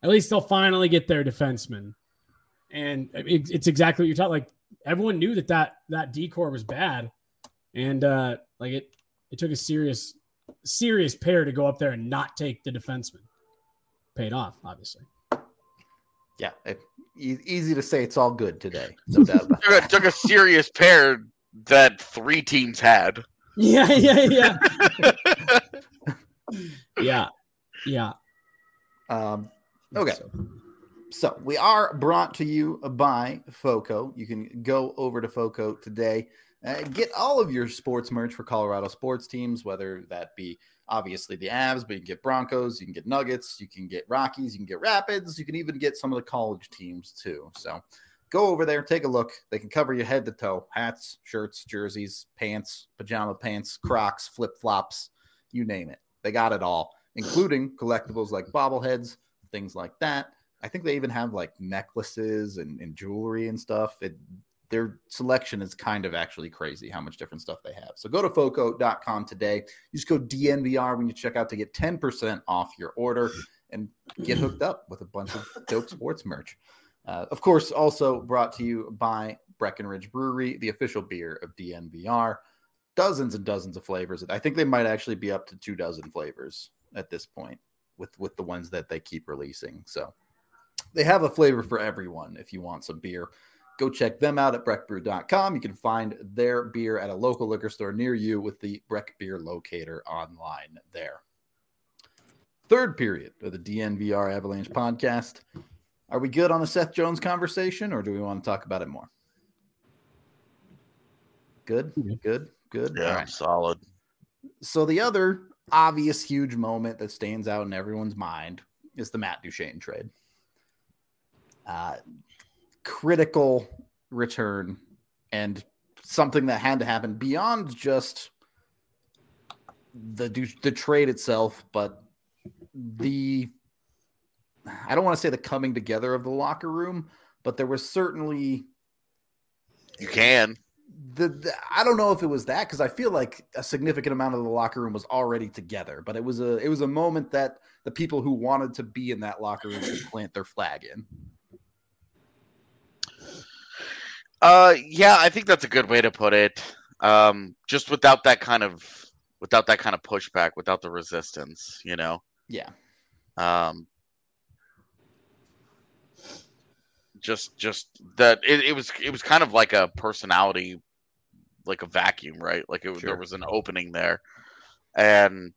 at least they'll finally get their defenseman. And it, it's exactly what you're talking. Like everyone knew that that, that decor was bad. And uh, like it, it took a serious, serious pair to go up there and not take the defenseman. Paid off, obviously. Yeah, it, e- easy to say it's all good today. No doubt about it. Took a serious pair that three teams had. Yeah, yeah, yeah. yeah, yeah. Um, okay. So we are brought to you by FOCO. You can go over to FOCO today. Uh, get all of your sports merch for Colorado sports teams, whether that be obviously the Avs, but you can get Broncos, you can get Nuggets, you can get Rockies, you can get Rapids, you can even get some of the college teams too. So go over there, take a look. They can cover you head to toe, hats, shirts, jerseys, pants, pajama pants, Crocs, flip-flops, you name it. They got it all, including collectibles like bobbleheads, things like that. I think they even have like necklaces and, and jewelry and stuff. It, Their selection is kind of actually crazy how much different stuff they have. So go to foco dot com today. Use code D N V R when you check out to get ten percent off your order and get hooked up with a bunch of dope sports merch. Uh, of course, also brought to you by Breckenridge Brewery, the official beer of D N V R. Dozens and dozens of flavors. I think they might actually be up to two dozen flavors at this point with, with the ones that they keep releasing. So they have a flavor for everyone if you want some beer. Go check them out at breck brew dot com. You can find their beer at a local liquor store near you with the Breck Beer Locator online there. Third period of the D N V R Avalanche podcast. Are we good on the Seth Jones conversation, or do we want to talk about it more? Good, good, good. Yeah, right. Solid. So the other obvious huge moment that stands out in everyone's mind is the Matt Duchene trade. Uh, critical return and something that had to happen beyond just the the trade itself, but the I don't want to say the coming together of the locker room, but there was certainly you can the, the I don't know if it was that, because I feel like a significant amount of the locker room was already together, but it was a it was a moment that the people who wanted to be in that locker room could plant their flag in. Uh, yeah, I think that's a good way to put it. Um, just without that kind of, without that kind of pushback, without the resistance, you know? Yeah. Um, just, just that it, it was, it was kind of like a personality, like a vacuum, right? Like it, sure. There was an opening there, and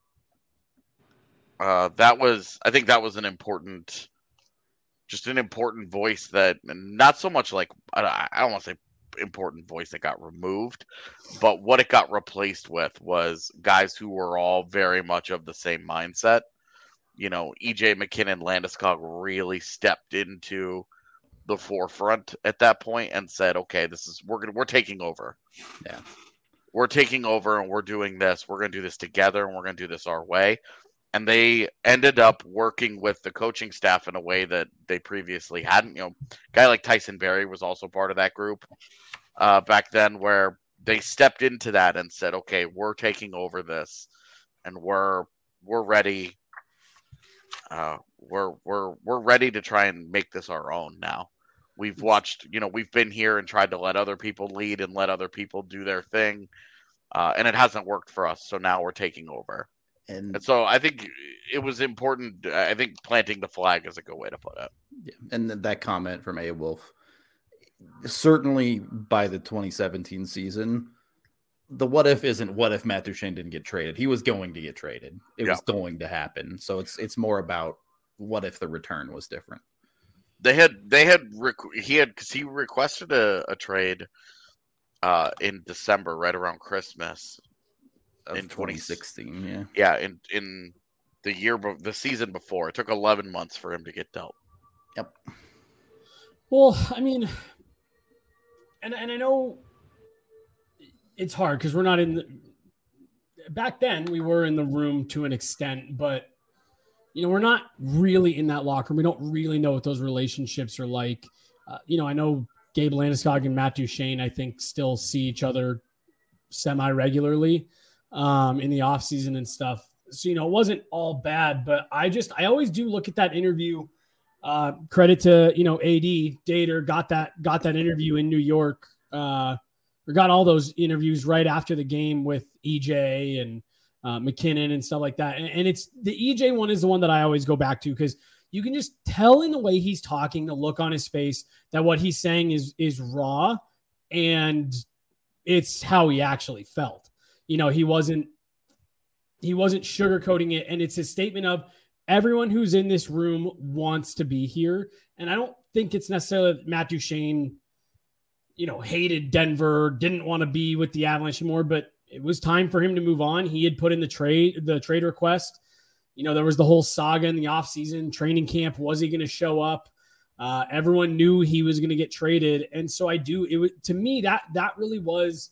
uh, that was, I think that was an important. Just an important voice that, not so much like, I don't want to say important voice that got removed, but what it got replaced with was guys who were all very much of the same mindset. You know, E J McKinnon, Landeskog really stepped into the forefront at that point and said, okay, this is, we're going to, we're taking over. Yeah. We're taking over and we're doing this. We're going to do this together and we're going to do this our way. And they ended up working with the coaching staff in a way that they previously hadn't. You know, a guy like Tyson Barrie was also part of that group uh, back then, where they stepped into that and said, "Okay, we're taking over this, and we're we're ready. Uh, we're we're we're ready to try and make this our own now." We've watched, you know, we've been here and tried to let other people lead and let other people do their thing, uh, and it hasn't worked for us. So now we're taking over. And, and so I think it was important. I think planting the flag is a good way to put it. Yeah. And that comment from A. Wolf, certainly by the twenty seventeen season, the what if isn't what if Matt Duchene didn't get traded. He was going to get traded. It yeah. was going to happen. So it's it's more about what if the return was different. They had they had he had because he requested a, a trade uh, in December, right around Christmas. In twenty sixteen, yeah, yeah, in in the year, the season before, it took eleven months for him to get dealt. Yep. Well, I mean, and and I know it's hard because we're not in the. Back then, we were in the room to an extent, but you know, we're not really in that locker room. We don't really know what those relationships are like. Uh, you know, I know Gabe Landeskog and Matt Duchene, I think, still see each other semi-regularly um, in the off season and stuff. So, you know, it wasn't all bad, but I just, I always do look at that interview uh, credit to, you know, A D Dater got that, got that interview in New York, uh, or got all those interviews right after the game with E J and uh, McKinnon and stuff like that. And, and it's the E J one is the one that I always go back to, because you can just tell in the way he's talking, the look on his face, that what he's saying is, is raw, and it's how he actually felt. You know, he wasn't, he wasn't sugarcoating it. And it's a statement of everyone who's in this room wants to be here. And I don't think it's necessarily that Matt Duchene, you know, hated Denver, didn't want to be with the Avalanche anymore, but it was time for him to move on. He had put in the trade, the trade request. You know, there was the whole saga in the offseason, training camp. Was he going to show up? Uh, everyone knew he was going to get traded. And so I do, it was, to me, that, that really was,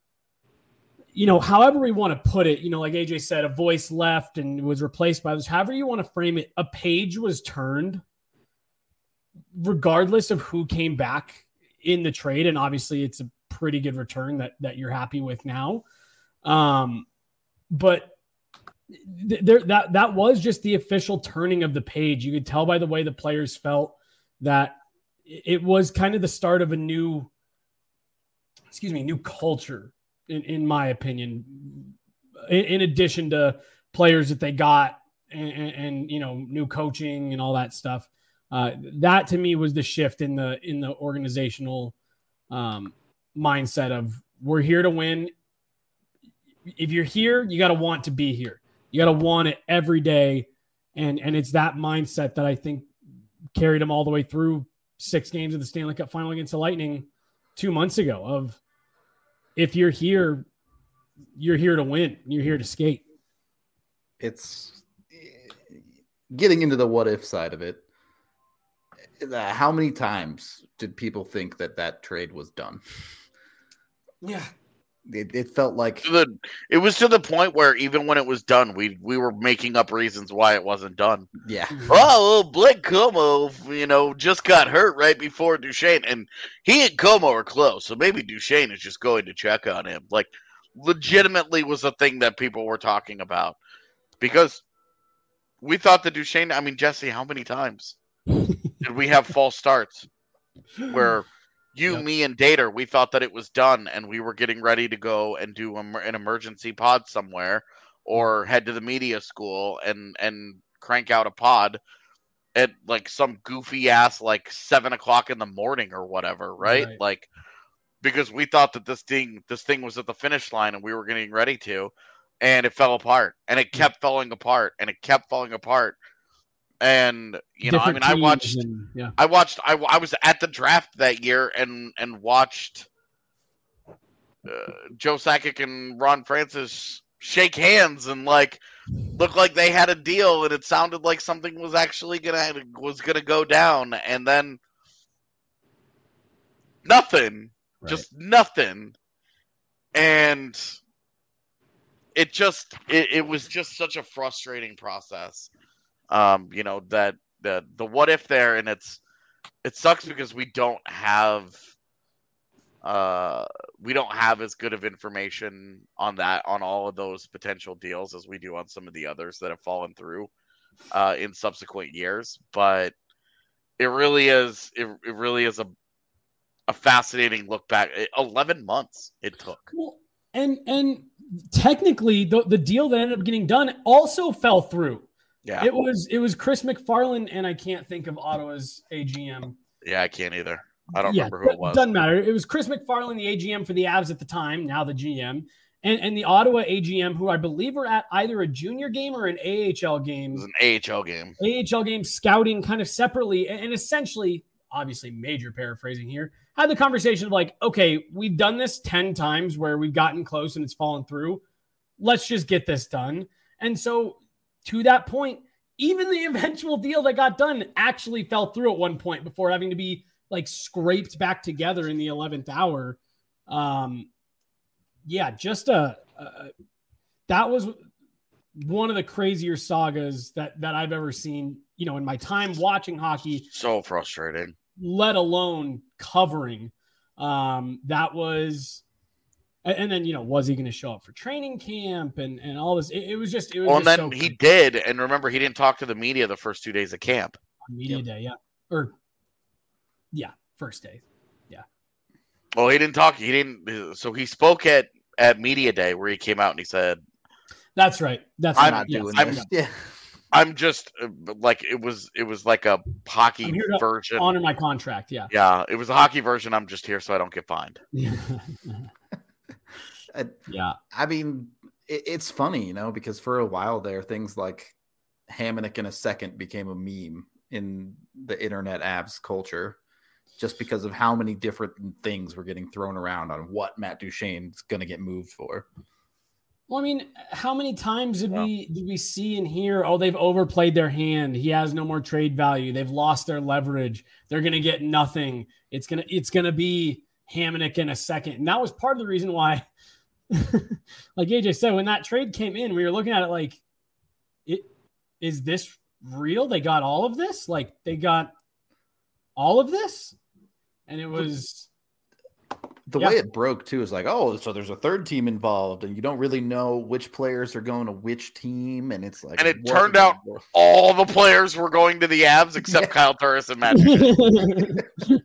you know, however we want to put it, you know, like A J said, a voice left and was replaced by others. However you want to frame it, a page was turned regardless of who came back in the trade. And obviously it's a pretty good return that, that you're happy with now. Um, but th- there, that, that was just the official turning of the page. You could tell by the way the players felt that it was kind of the start of a new, excuse me, new culture, in, in my opinion, in, in addition to players that they got and, and, and, you know, new coaching and all that stuff. Uh, that to me was the shift in the, in the organizational um, mindset of, we're here to win. If you're here, you got to want to be here. You got to want it every day. And, and it's that mindset that I think carried them all the way through six games of the Stanley Cup final against the Lightning two months ago of, if you're here, you're here to win. You're here to skate. It's getting into the what if side of it. How many times did people think that that trade was done? Yeah. It, it felt like the, it was to the point where even when it was done, we we were making up reasons why it wasn't done. Yeah. Oh, well, Blake Como, you know, just got hurt right before Duchene, and he and Como are close, so maybe Duchene is just going to check on him. Like, legitimately was a thing that people were talking about, because we thought that Duchene. I mean, Jesse, how many times did we have false starts where you, yep. me, and Dater, we thought that it was done and we were getting ready to go and do an emergency pod somewhere or head to the media school and, and crank out a pod at like some goofy ass, like seven o'clock in the morning or whatever. Right? right. Like, because we thought that this thing, this thing was at the finish line and we were getting ready to, and it fell apart and it kept yeah. falling apart and it kept falling apart. And, you know, Different I mean, I watched, and, yeah. I watched, I, I was at the draft that year and, and watched uh, Joe Sakic and Ron Francis shake hands and like, look like they had a deal and it sounded like something was actually going to, was going to go down. And then nothing, right. just nothing. And it just, it, it was just such a frustrating process. Um, you know, that the the what if there, and it's it sucks because we don't have uh we don't have as good of information on that, on all of those potential deals as we do on some of the others that have fallen through uh in subsequent years. But it really is it, it really is a a fascinating look back. eleven months it took. Well, and and technically the the deal that ended up getting done also fell through. Yeah, it was it was Chris McFarland, and I can't think of Ottawa's A G M. Yeah, I can't either. I don't yeah, remember who it was. Doesn't matter. It was Chris McFarland, the A G M for the Avs at the time, now the G M, and, and the Ottawa A G M, who I believe were at either a junior game or an A H L game. It was an A H L game. A H L game, scouting kind of separately, and, and essentially, obviously major paraphrasing here, had the conversation of like, okay, we've done this ten times where we've gotten close and it's fallen through. Let's just get this done. And so to that point, even the eventual deal that got done actually fell through at one point before having to be like scraped back together in the eleventh hour. Um, yeah, just a, a, that was one of the crazier sagas that, that I've ever seen, you know, in my time watching hockey. So frustrating, let alone covering. Um, that was, and then, you know, was he going to show up for training camp and, and all this? It, it was just, it was well, just and so then he did. And remember, he didn't talk to the media the first two days of camp. Media Yep. day, yeah. Or yeah, first day. Yeah. Well, he didn't talk. He didn't. So he spoke at at media day where he came out and he said, That's right. That's I'm right. not Yes. doing I'm- this. Yeah. "I'm just uh, like it was. It was like a hockey I'm here to version. honor my contract. Yeah. Yeah, it was a hockey version. I'm just here so I don't get fined." Yeah. I, yeah. I mean, it, it's funny, you know, because for a while there, things like Hamonic in a second became a meme in the internet abs culture, just because of how many different things were getting thrown around on what Matt Duchene's going to get moved for. Well, I mean, how many times did Yeah. we did we see and hear, oh, they've overplayed their hand. He has no more trade value. They've lost their leverage. They're gonna get nothing. It's gonna it's gonna be Hamonic in a second. And that was part of the reason why, like A J said, when that trade came in, we were looking at it like, it is this real? They got all of this? Like they got all of this? And it was The Yeah. way it broke too is like, oh, so there's a third team involved, and you don't really know which players are going to which team, and it's like, And it what turned in the out world? All the players were going to the Avs except Yeah. Kyle Turris and Matt. Duchene.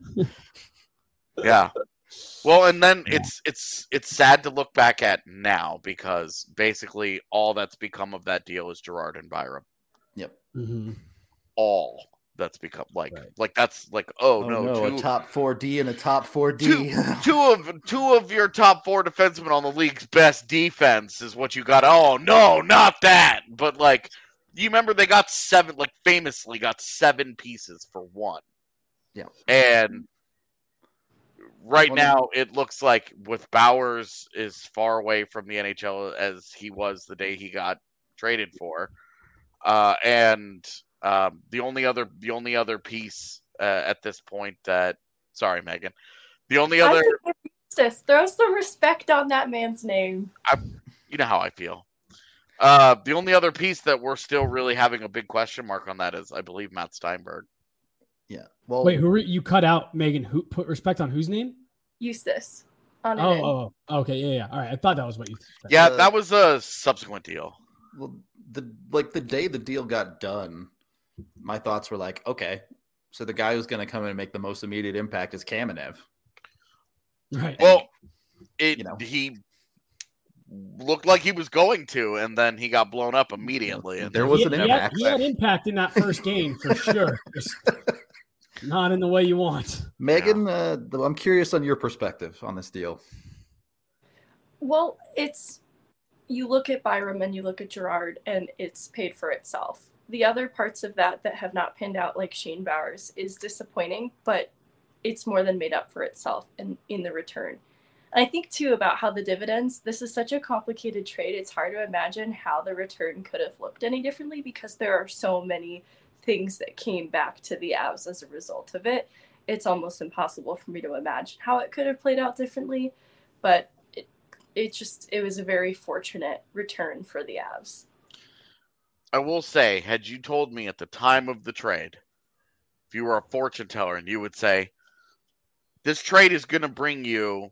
Yeah. Well, and then Yeah. it's it's it's sad to look back at now because basically all that's become of that deal is Gerard and Byram. Mhm. All that's become like Right. like that's like oh, Oh no, no, two, a top four D and a top four D. two, two of two of your top four defensemen on the league's best defense is what you got. Oh no, not that. But like you remember they got seven, like famously got seven pieces for one. Yeah. And right Well, now it looks like with Bowers is far away from the N H L as he was the day he got traded for. Uh, and um, the only other the only other piece uh, at this point that sorry, Megan. The only I other think Eustace, throw some respect on that man's name. you know how I feel. Uh, the only other piece that we're still really having a big question mark on that is, I believe, Matt Steinberg. Yeah. Well, Wait, who were, you cut out Megan? Who put respect on whose name? Eustace. On Oh, it. oh, oh, okay, yeah, yeah. All right, I thought that was what you said. Yeah, Uh, that was a subsequent deal. well, the like the day the deal got done, my thoughts were like, okay, so the guy who's going to come in and make the most immediate impact is Kamenev. Right. Well, it you know. he looked like he was going to, and then he got blown up immediately. And There was he, an he impact. Had, he had impact in that first game for sure. Just not in the way you want. Megan, uh, I'm curious on your perspective on this deal. Well, it's you look at Byram and you look at Gerard, and it's paid for itself. The other parts of that that have not pinned out, like Shane Bowers, is disappointing, but it's more than made up for itself in, in the return. And I think, too, about how the dividends, this is such a complicated trade. It's hard to imagine how the return could have looked any differently because there are so many things that came back to the Avs as a result of it. It's almost impossible for me to imagine how it could have played out differently, but it, it just, it was a very fortunate return for the Avs. I will say, had you told me at the time of the trade, if you were a fortune teller and you would say, this trade is going to bring you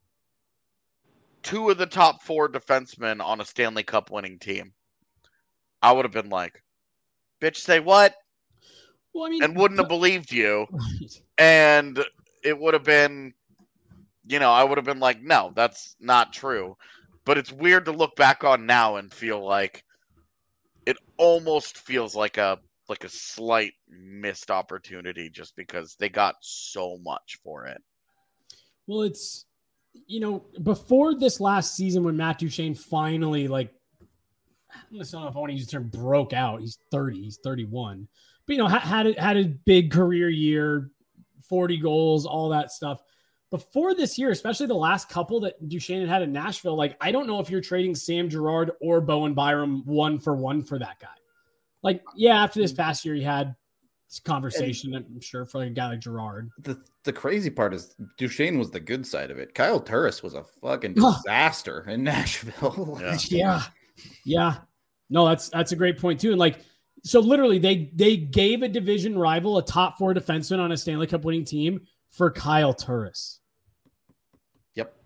two of the top four defensemen on a Stanley Cup winning team, I would have been like, bitch, say what? Well, I mean, And wouldn't have believed you. Right. And it would have been, you know, I would have been like, no, that's not true. But it's weird to look back on now and feel like it almost feels like a like a slight missed opportunity just because they got so much for it. Well, it's, you know, before this last season when Matt Duchene finally, like, I don't know if I want to use the term broke out. He's thirty, he's thirty-one. But, you know, had, had, a, had a big career year, forty goals, all that stuff. Before this year, especially the last couple that Duchene had had in Nashville, like, I don't know if you're trading Sam Girard or Bowen Byram one for one for that guy. Like, yeah, after this past year, he had this conversation, I'm sure, for like a guy like Girard. The the crazy part is Duchene was the good side of it. Kyle Turris was a fucking disaster in Nashville. Yeah. Yeah. Yeah. No, that's that's a great point too. And like, so literally they they gave a division rival a top four defenseman on a Stanley Cup winning team for Kyle Turris. Yep.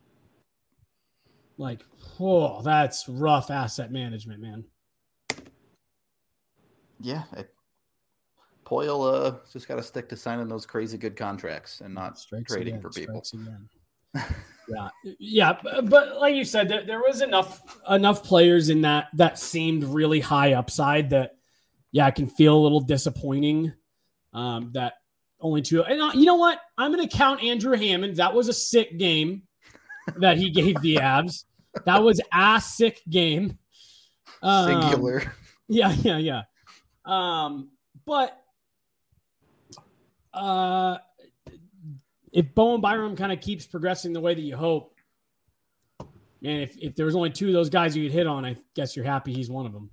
Like, oh, that's rough asset management, man. Yeah. It, Poyle uh, just got to stick to signing those crazy good contracts and not Strikes trading again, for people. yeah, yeah, but, but like you said, there, there was enough enough players in that that seemed really high upside that, yeah, it can feel a little disappointing. Um, that only two, and uh, you know what? I'm going to count Andrew Hammond. That was a sick game that he gave the Avs. That was a sick game. Um, Singular. Yeah, yeah, yeah. Um, but uh, if Bowen Byram kind of keeps progressing the way that you hope, man, if, if there was only two of those guys you could hit on, I guess you're happy he's one of them.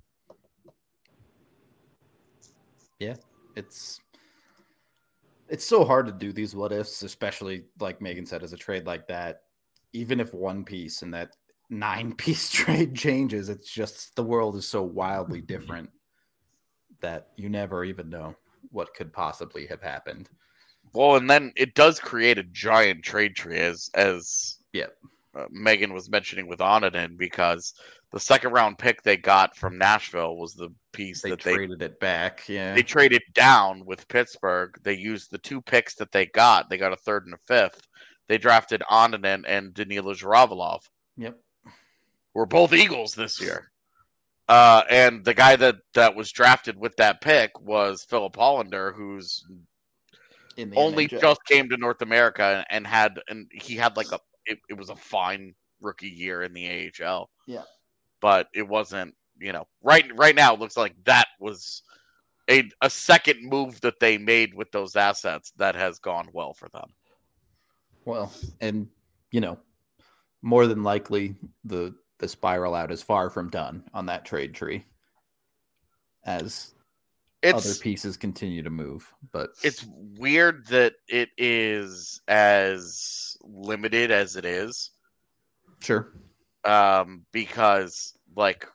Yeah, it's it's so hard to do these what ifs, especially like Megan said, as a trade like that. Even if one piece in that nine piece trade changes, it's just the world is so wildly different that you never even know what could possibly have happened. Well, and then it does create a giant trade tree, as as yeah. uh, Megan was mentioning with Onanen, because the second round pick they got from Nashville was the piece they that traded they it back. Yeah, they traded down with Pittsburgh. They used the two picks that they got. They got a third and a fifth. They drafted Onanen and Danila Zhiravalov. Yep, we're both Eagles this year. Uh, and the guy that, that was drafted with that pick was Philip Hollander, who's only N H L. just came to North America and had and he had like a it, it was a fine rookie year in the A H L. Yeah, but it wasn't. You know, right right now it looks like that was a a second move that they made with those assets that has gone well for them. Well, and you know, more than likely the the spiral out is far from done on that trade tree as it's, other pieces continue to move. But it's weird that it is as limited as it is. Sure. Um, because like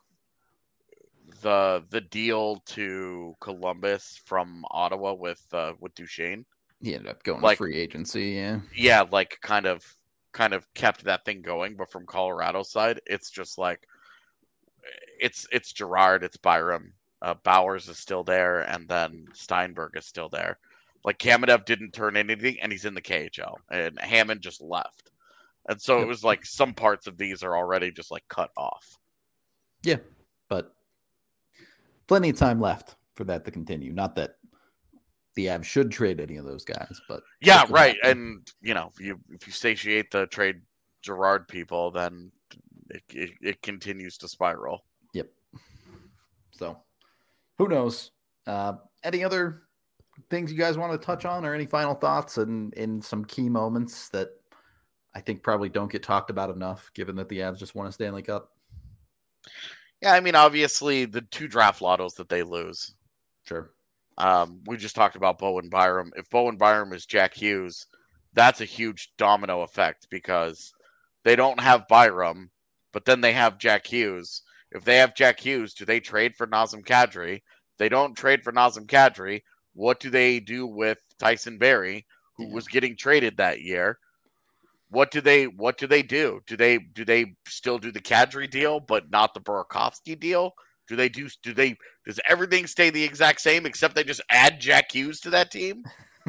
the the deal to Columbus from Ottawa with uh, with Duchesne, he ended up going like, to free agency. Yeah, yeah, like kind of kind of kept that thing going. But from Colorado's side, it's just like it's it's Gerard, it's Byram, uh, Bowers is still there, and then Steinberg is still there. Like Kamenev didn't turn anything, and he's in the K H L, and Hammond just left, and so yep. it was like some parts of these are already just like cut off. Yeah, but plenty of time left for that to continue. Not that the Avs should trade any of those guys, but yeah, right. Happen. And you know, if you if you satiate the trade Gerard people, then it, it it continues to spiral. Yep. So, who knows? Uh, any other things you guys want to touch on, or any final thoughts and in, in some key moments that I think probably don't get talked about enough, given that the Avs just won a Stanley Cup? Yeah, I mean, obviously the two draft lottos that they lose. Sure. Um, we just talked about Bowen Byram. If Bowen Byram is Jack Hughes, that's a huge domino effect because they don't have Byram, but then they have Jack Hughes. If they have Jack Hughes, do they trade for Nazem Kadri? If they don't trade for Nazem Kadri, what do they do with Tyson Barrie, who yeah. was getting traded that year? What do they what do they do? Do they do they still do the Kadri deal but not the Burakovsky deal? Do they do do they does everything stay the exact same except they just add Jack Hughes to that team?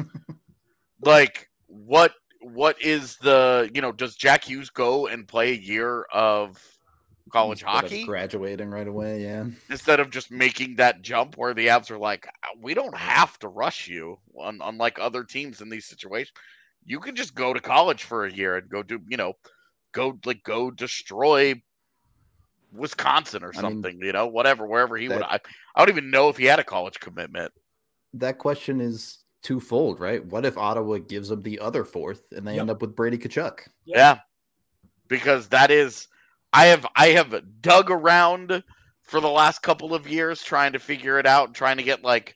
Like what what is the you know, does Jack Hughes go and play a year of college Instead hockey? Of graduating right away, yeah. Instead of just making that jump where the Avs are like, we don't have to rush you, unlike other teams in these situations. You can just go to college for a year and go do, you know, go like go destroy Wisconsin or something, I mean, you know, whatever, wherever he that, would. I, I don't even know if he had a college commitment. That question is twofold, right? What if Ottawa gives them the other fourth and they yep. end up with Brady Tkachuk? Yep. Yeah, because that is, I have I have dug around for the last couple of years trying to figure it out and trying to get like.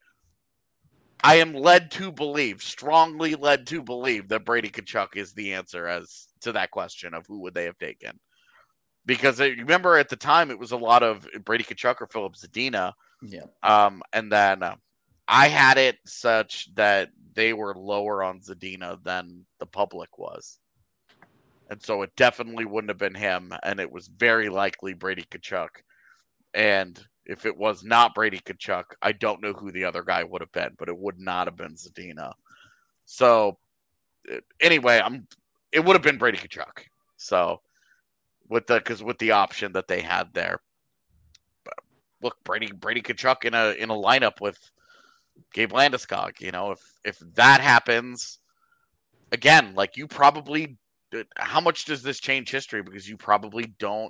I am led to believe, strongly led to believe that Brady Tkachuk is the answer as to that question of who would they have taken. Because I remember at the time it was a lot of Brady Tkachuk or Philip Zadina. Yeah. Um, and then uh, I had it such that they were lower on Zadina than the public was. And so it definitely wouldn't have been him. And it was very likely Brady Tkachuk. And if it was not Brady Tkachuk, I don't know who the other guy would have been, but it would not have been Zadina. So anyway, I'm it would have been Brady Tkachuk. So with the because with the option that they had there, but look, Brady Brady Tkachuk in a in a lineup with Gabe Landeskog. You know, if if that happens again, like you probably, how much does this change history? Because you probably don't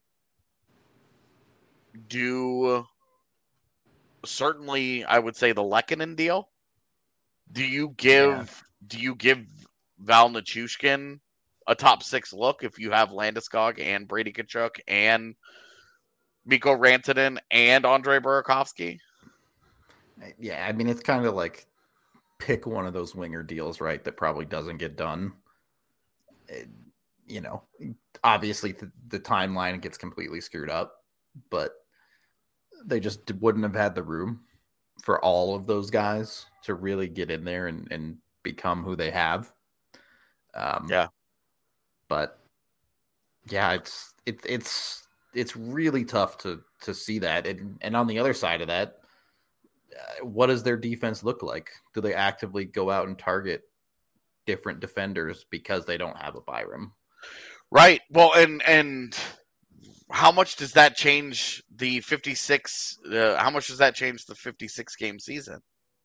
do. Certainly, I would say the Lehkonen deal. Do you give yeah. do you give Val Nichushkin a top six look if you have Landeskog and Brady Tkachuk and Mikko Rantanen and Andre Burakovsky? Yeah, I mean, it's kind of like pick one of those winger deals, right, that probably doesn't get done. It, you know, obviously the, the timeline gets completely screwed up, but they just wouldn't have had the room for all of those guys to really get in there and, and become who they have. Um, yeah. But yeah, it's, it, it's, it's really tough to, to see that. And, and on the other side of that, uh, what does their defense look like? Do they actively go out and target different defenders because they don't have a Byram? Right. Well, and, and how much does that change the fifty-six? Uh, how much does that change the fifty-six game season?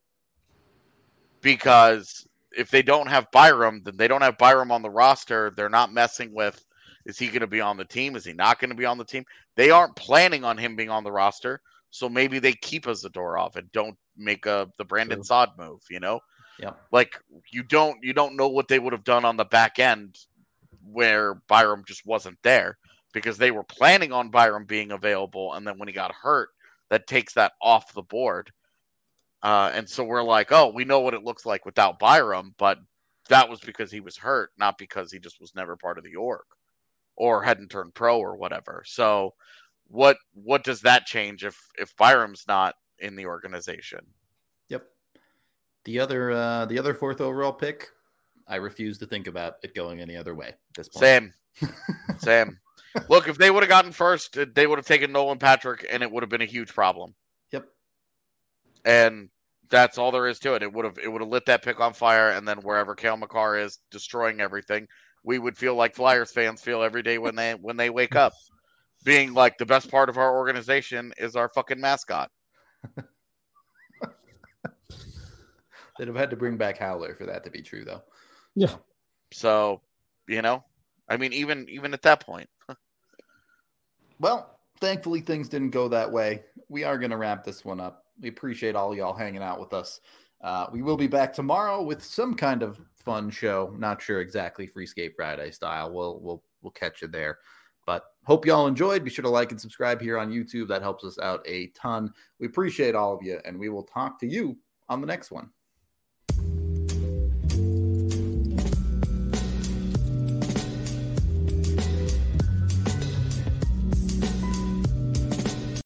Because if they don't have Byram, then they don't have Byram on the roster. They're not messing with, is he going to be on the team? Is he not going to be on the team? They aren't planning on him being on the roster. So maybe they keep a Zadorov and don't make a the Brandon True. Saad move, you know? Yeah. Like you don't you don't know what they would have done on the back end where Byram just wasn't there, because they were planning on Byram being available, and then when he got hurt, that takes that off the board. Uh, and so we're like, oh, we know what it looks like without Byram, but that was because he was hurt, not because he just was never part of the org or hadn't turned pro or whatever. So what what does that change if if Byram's not in the organization? Yep. The other uh, the other fourth overall pick, I refuse to think about it going any other way at this point. Same. Same. Look, if they would have gotten first, they would have taken Nolan Patrick, and it would have been a huge problem. Yep. And that's all there is to it. It would have it would have lit that pick on fire, and then wherever Cale Makar is destroying everything, we would feel like Flyers fans feel every day when they when they wake up, being like, the best part of our organization is our fucking mascot. They'd have had to bring back Howler for that to be true, though. Yeah. So, you know, I mean, even even at that point. Well, thankfully things didn't go that way. We are going to wrap this one up. We appreciate all y'all hanging out with us. Uh, we will be back tomorrow with some kind of fun show. Not sure exactly Free Skate Friday style. We'll we'll we'll catch you there. But hope y'all enjoyed. Be sure to like and subscribe here on YouTube. That helps us out a ton. We appreciate all of you, and we will talk to you on the next one.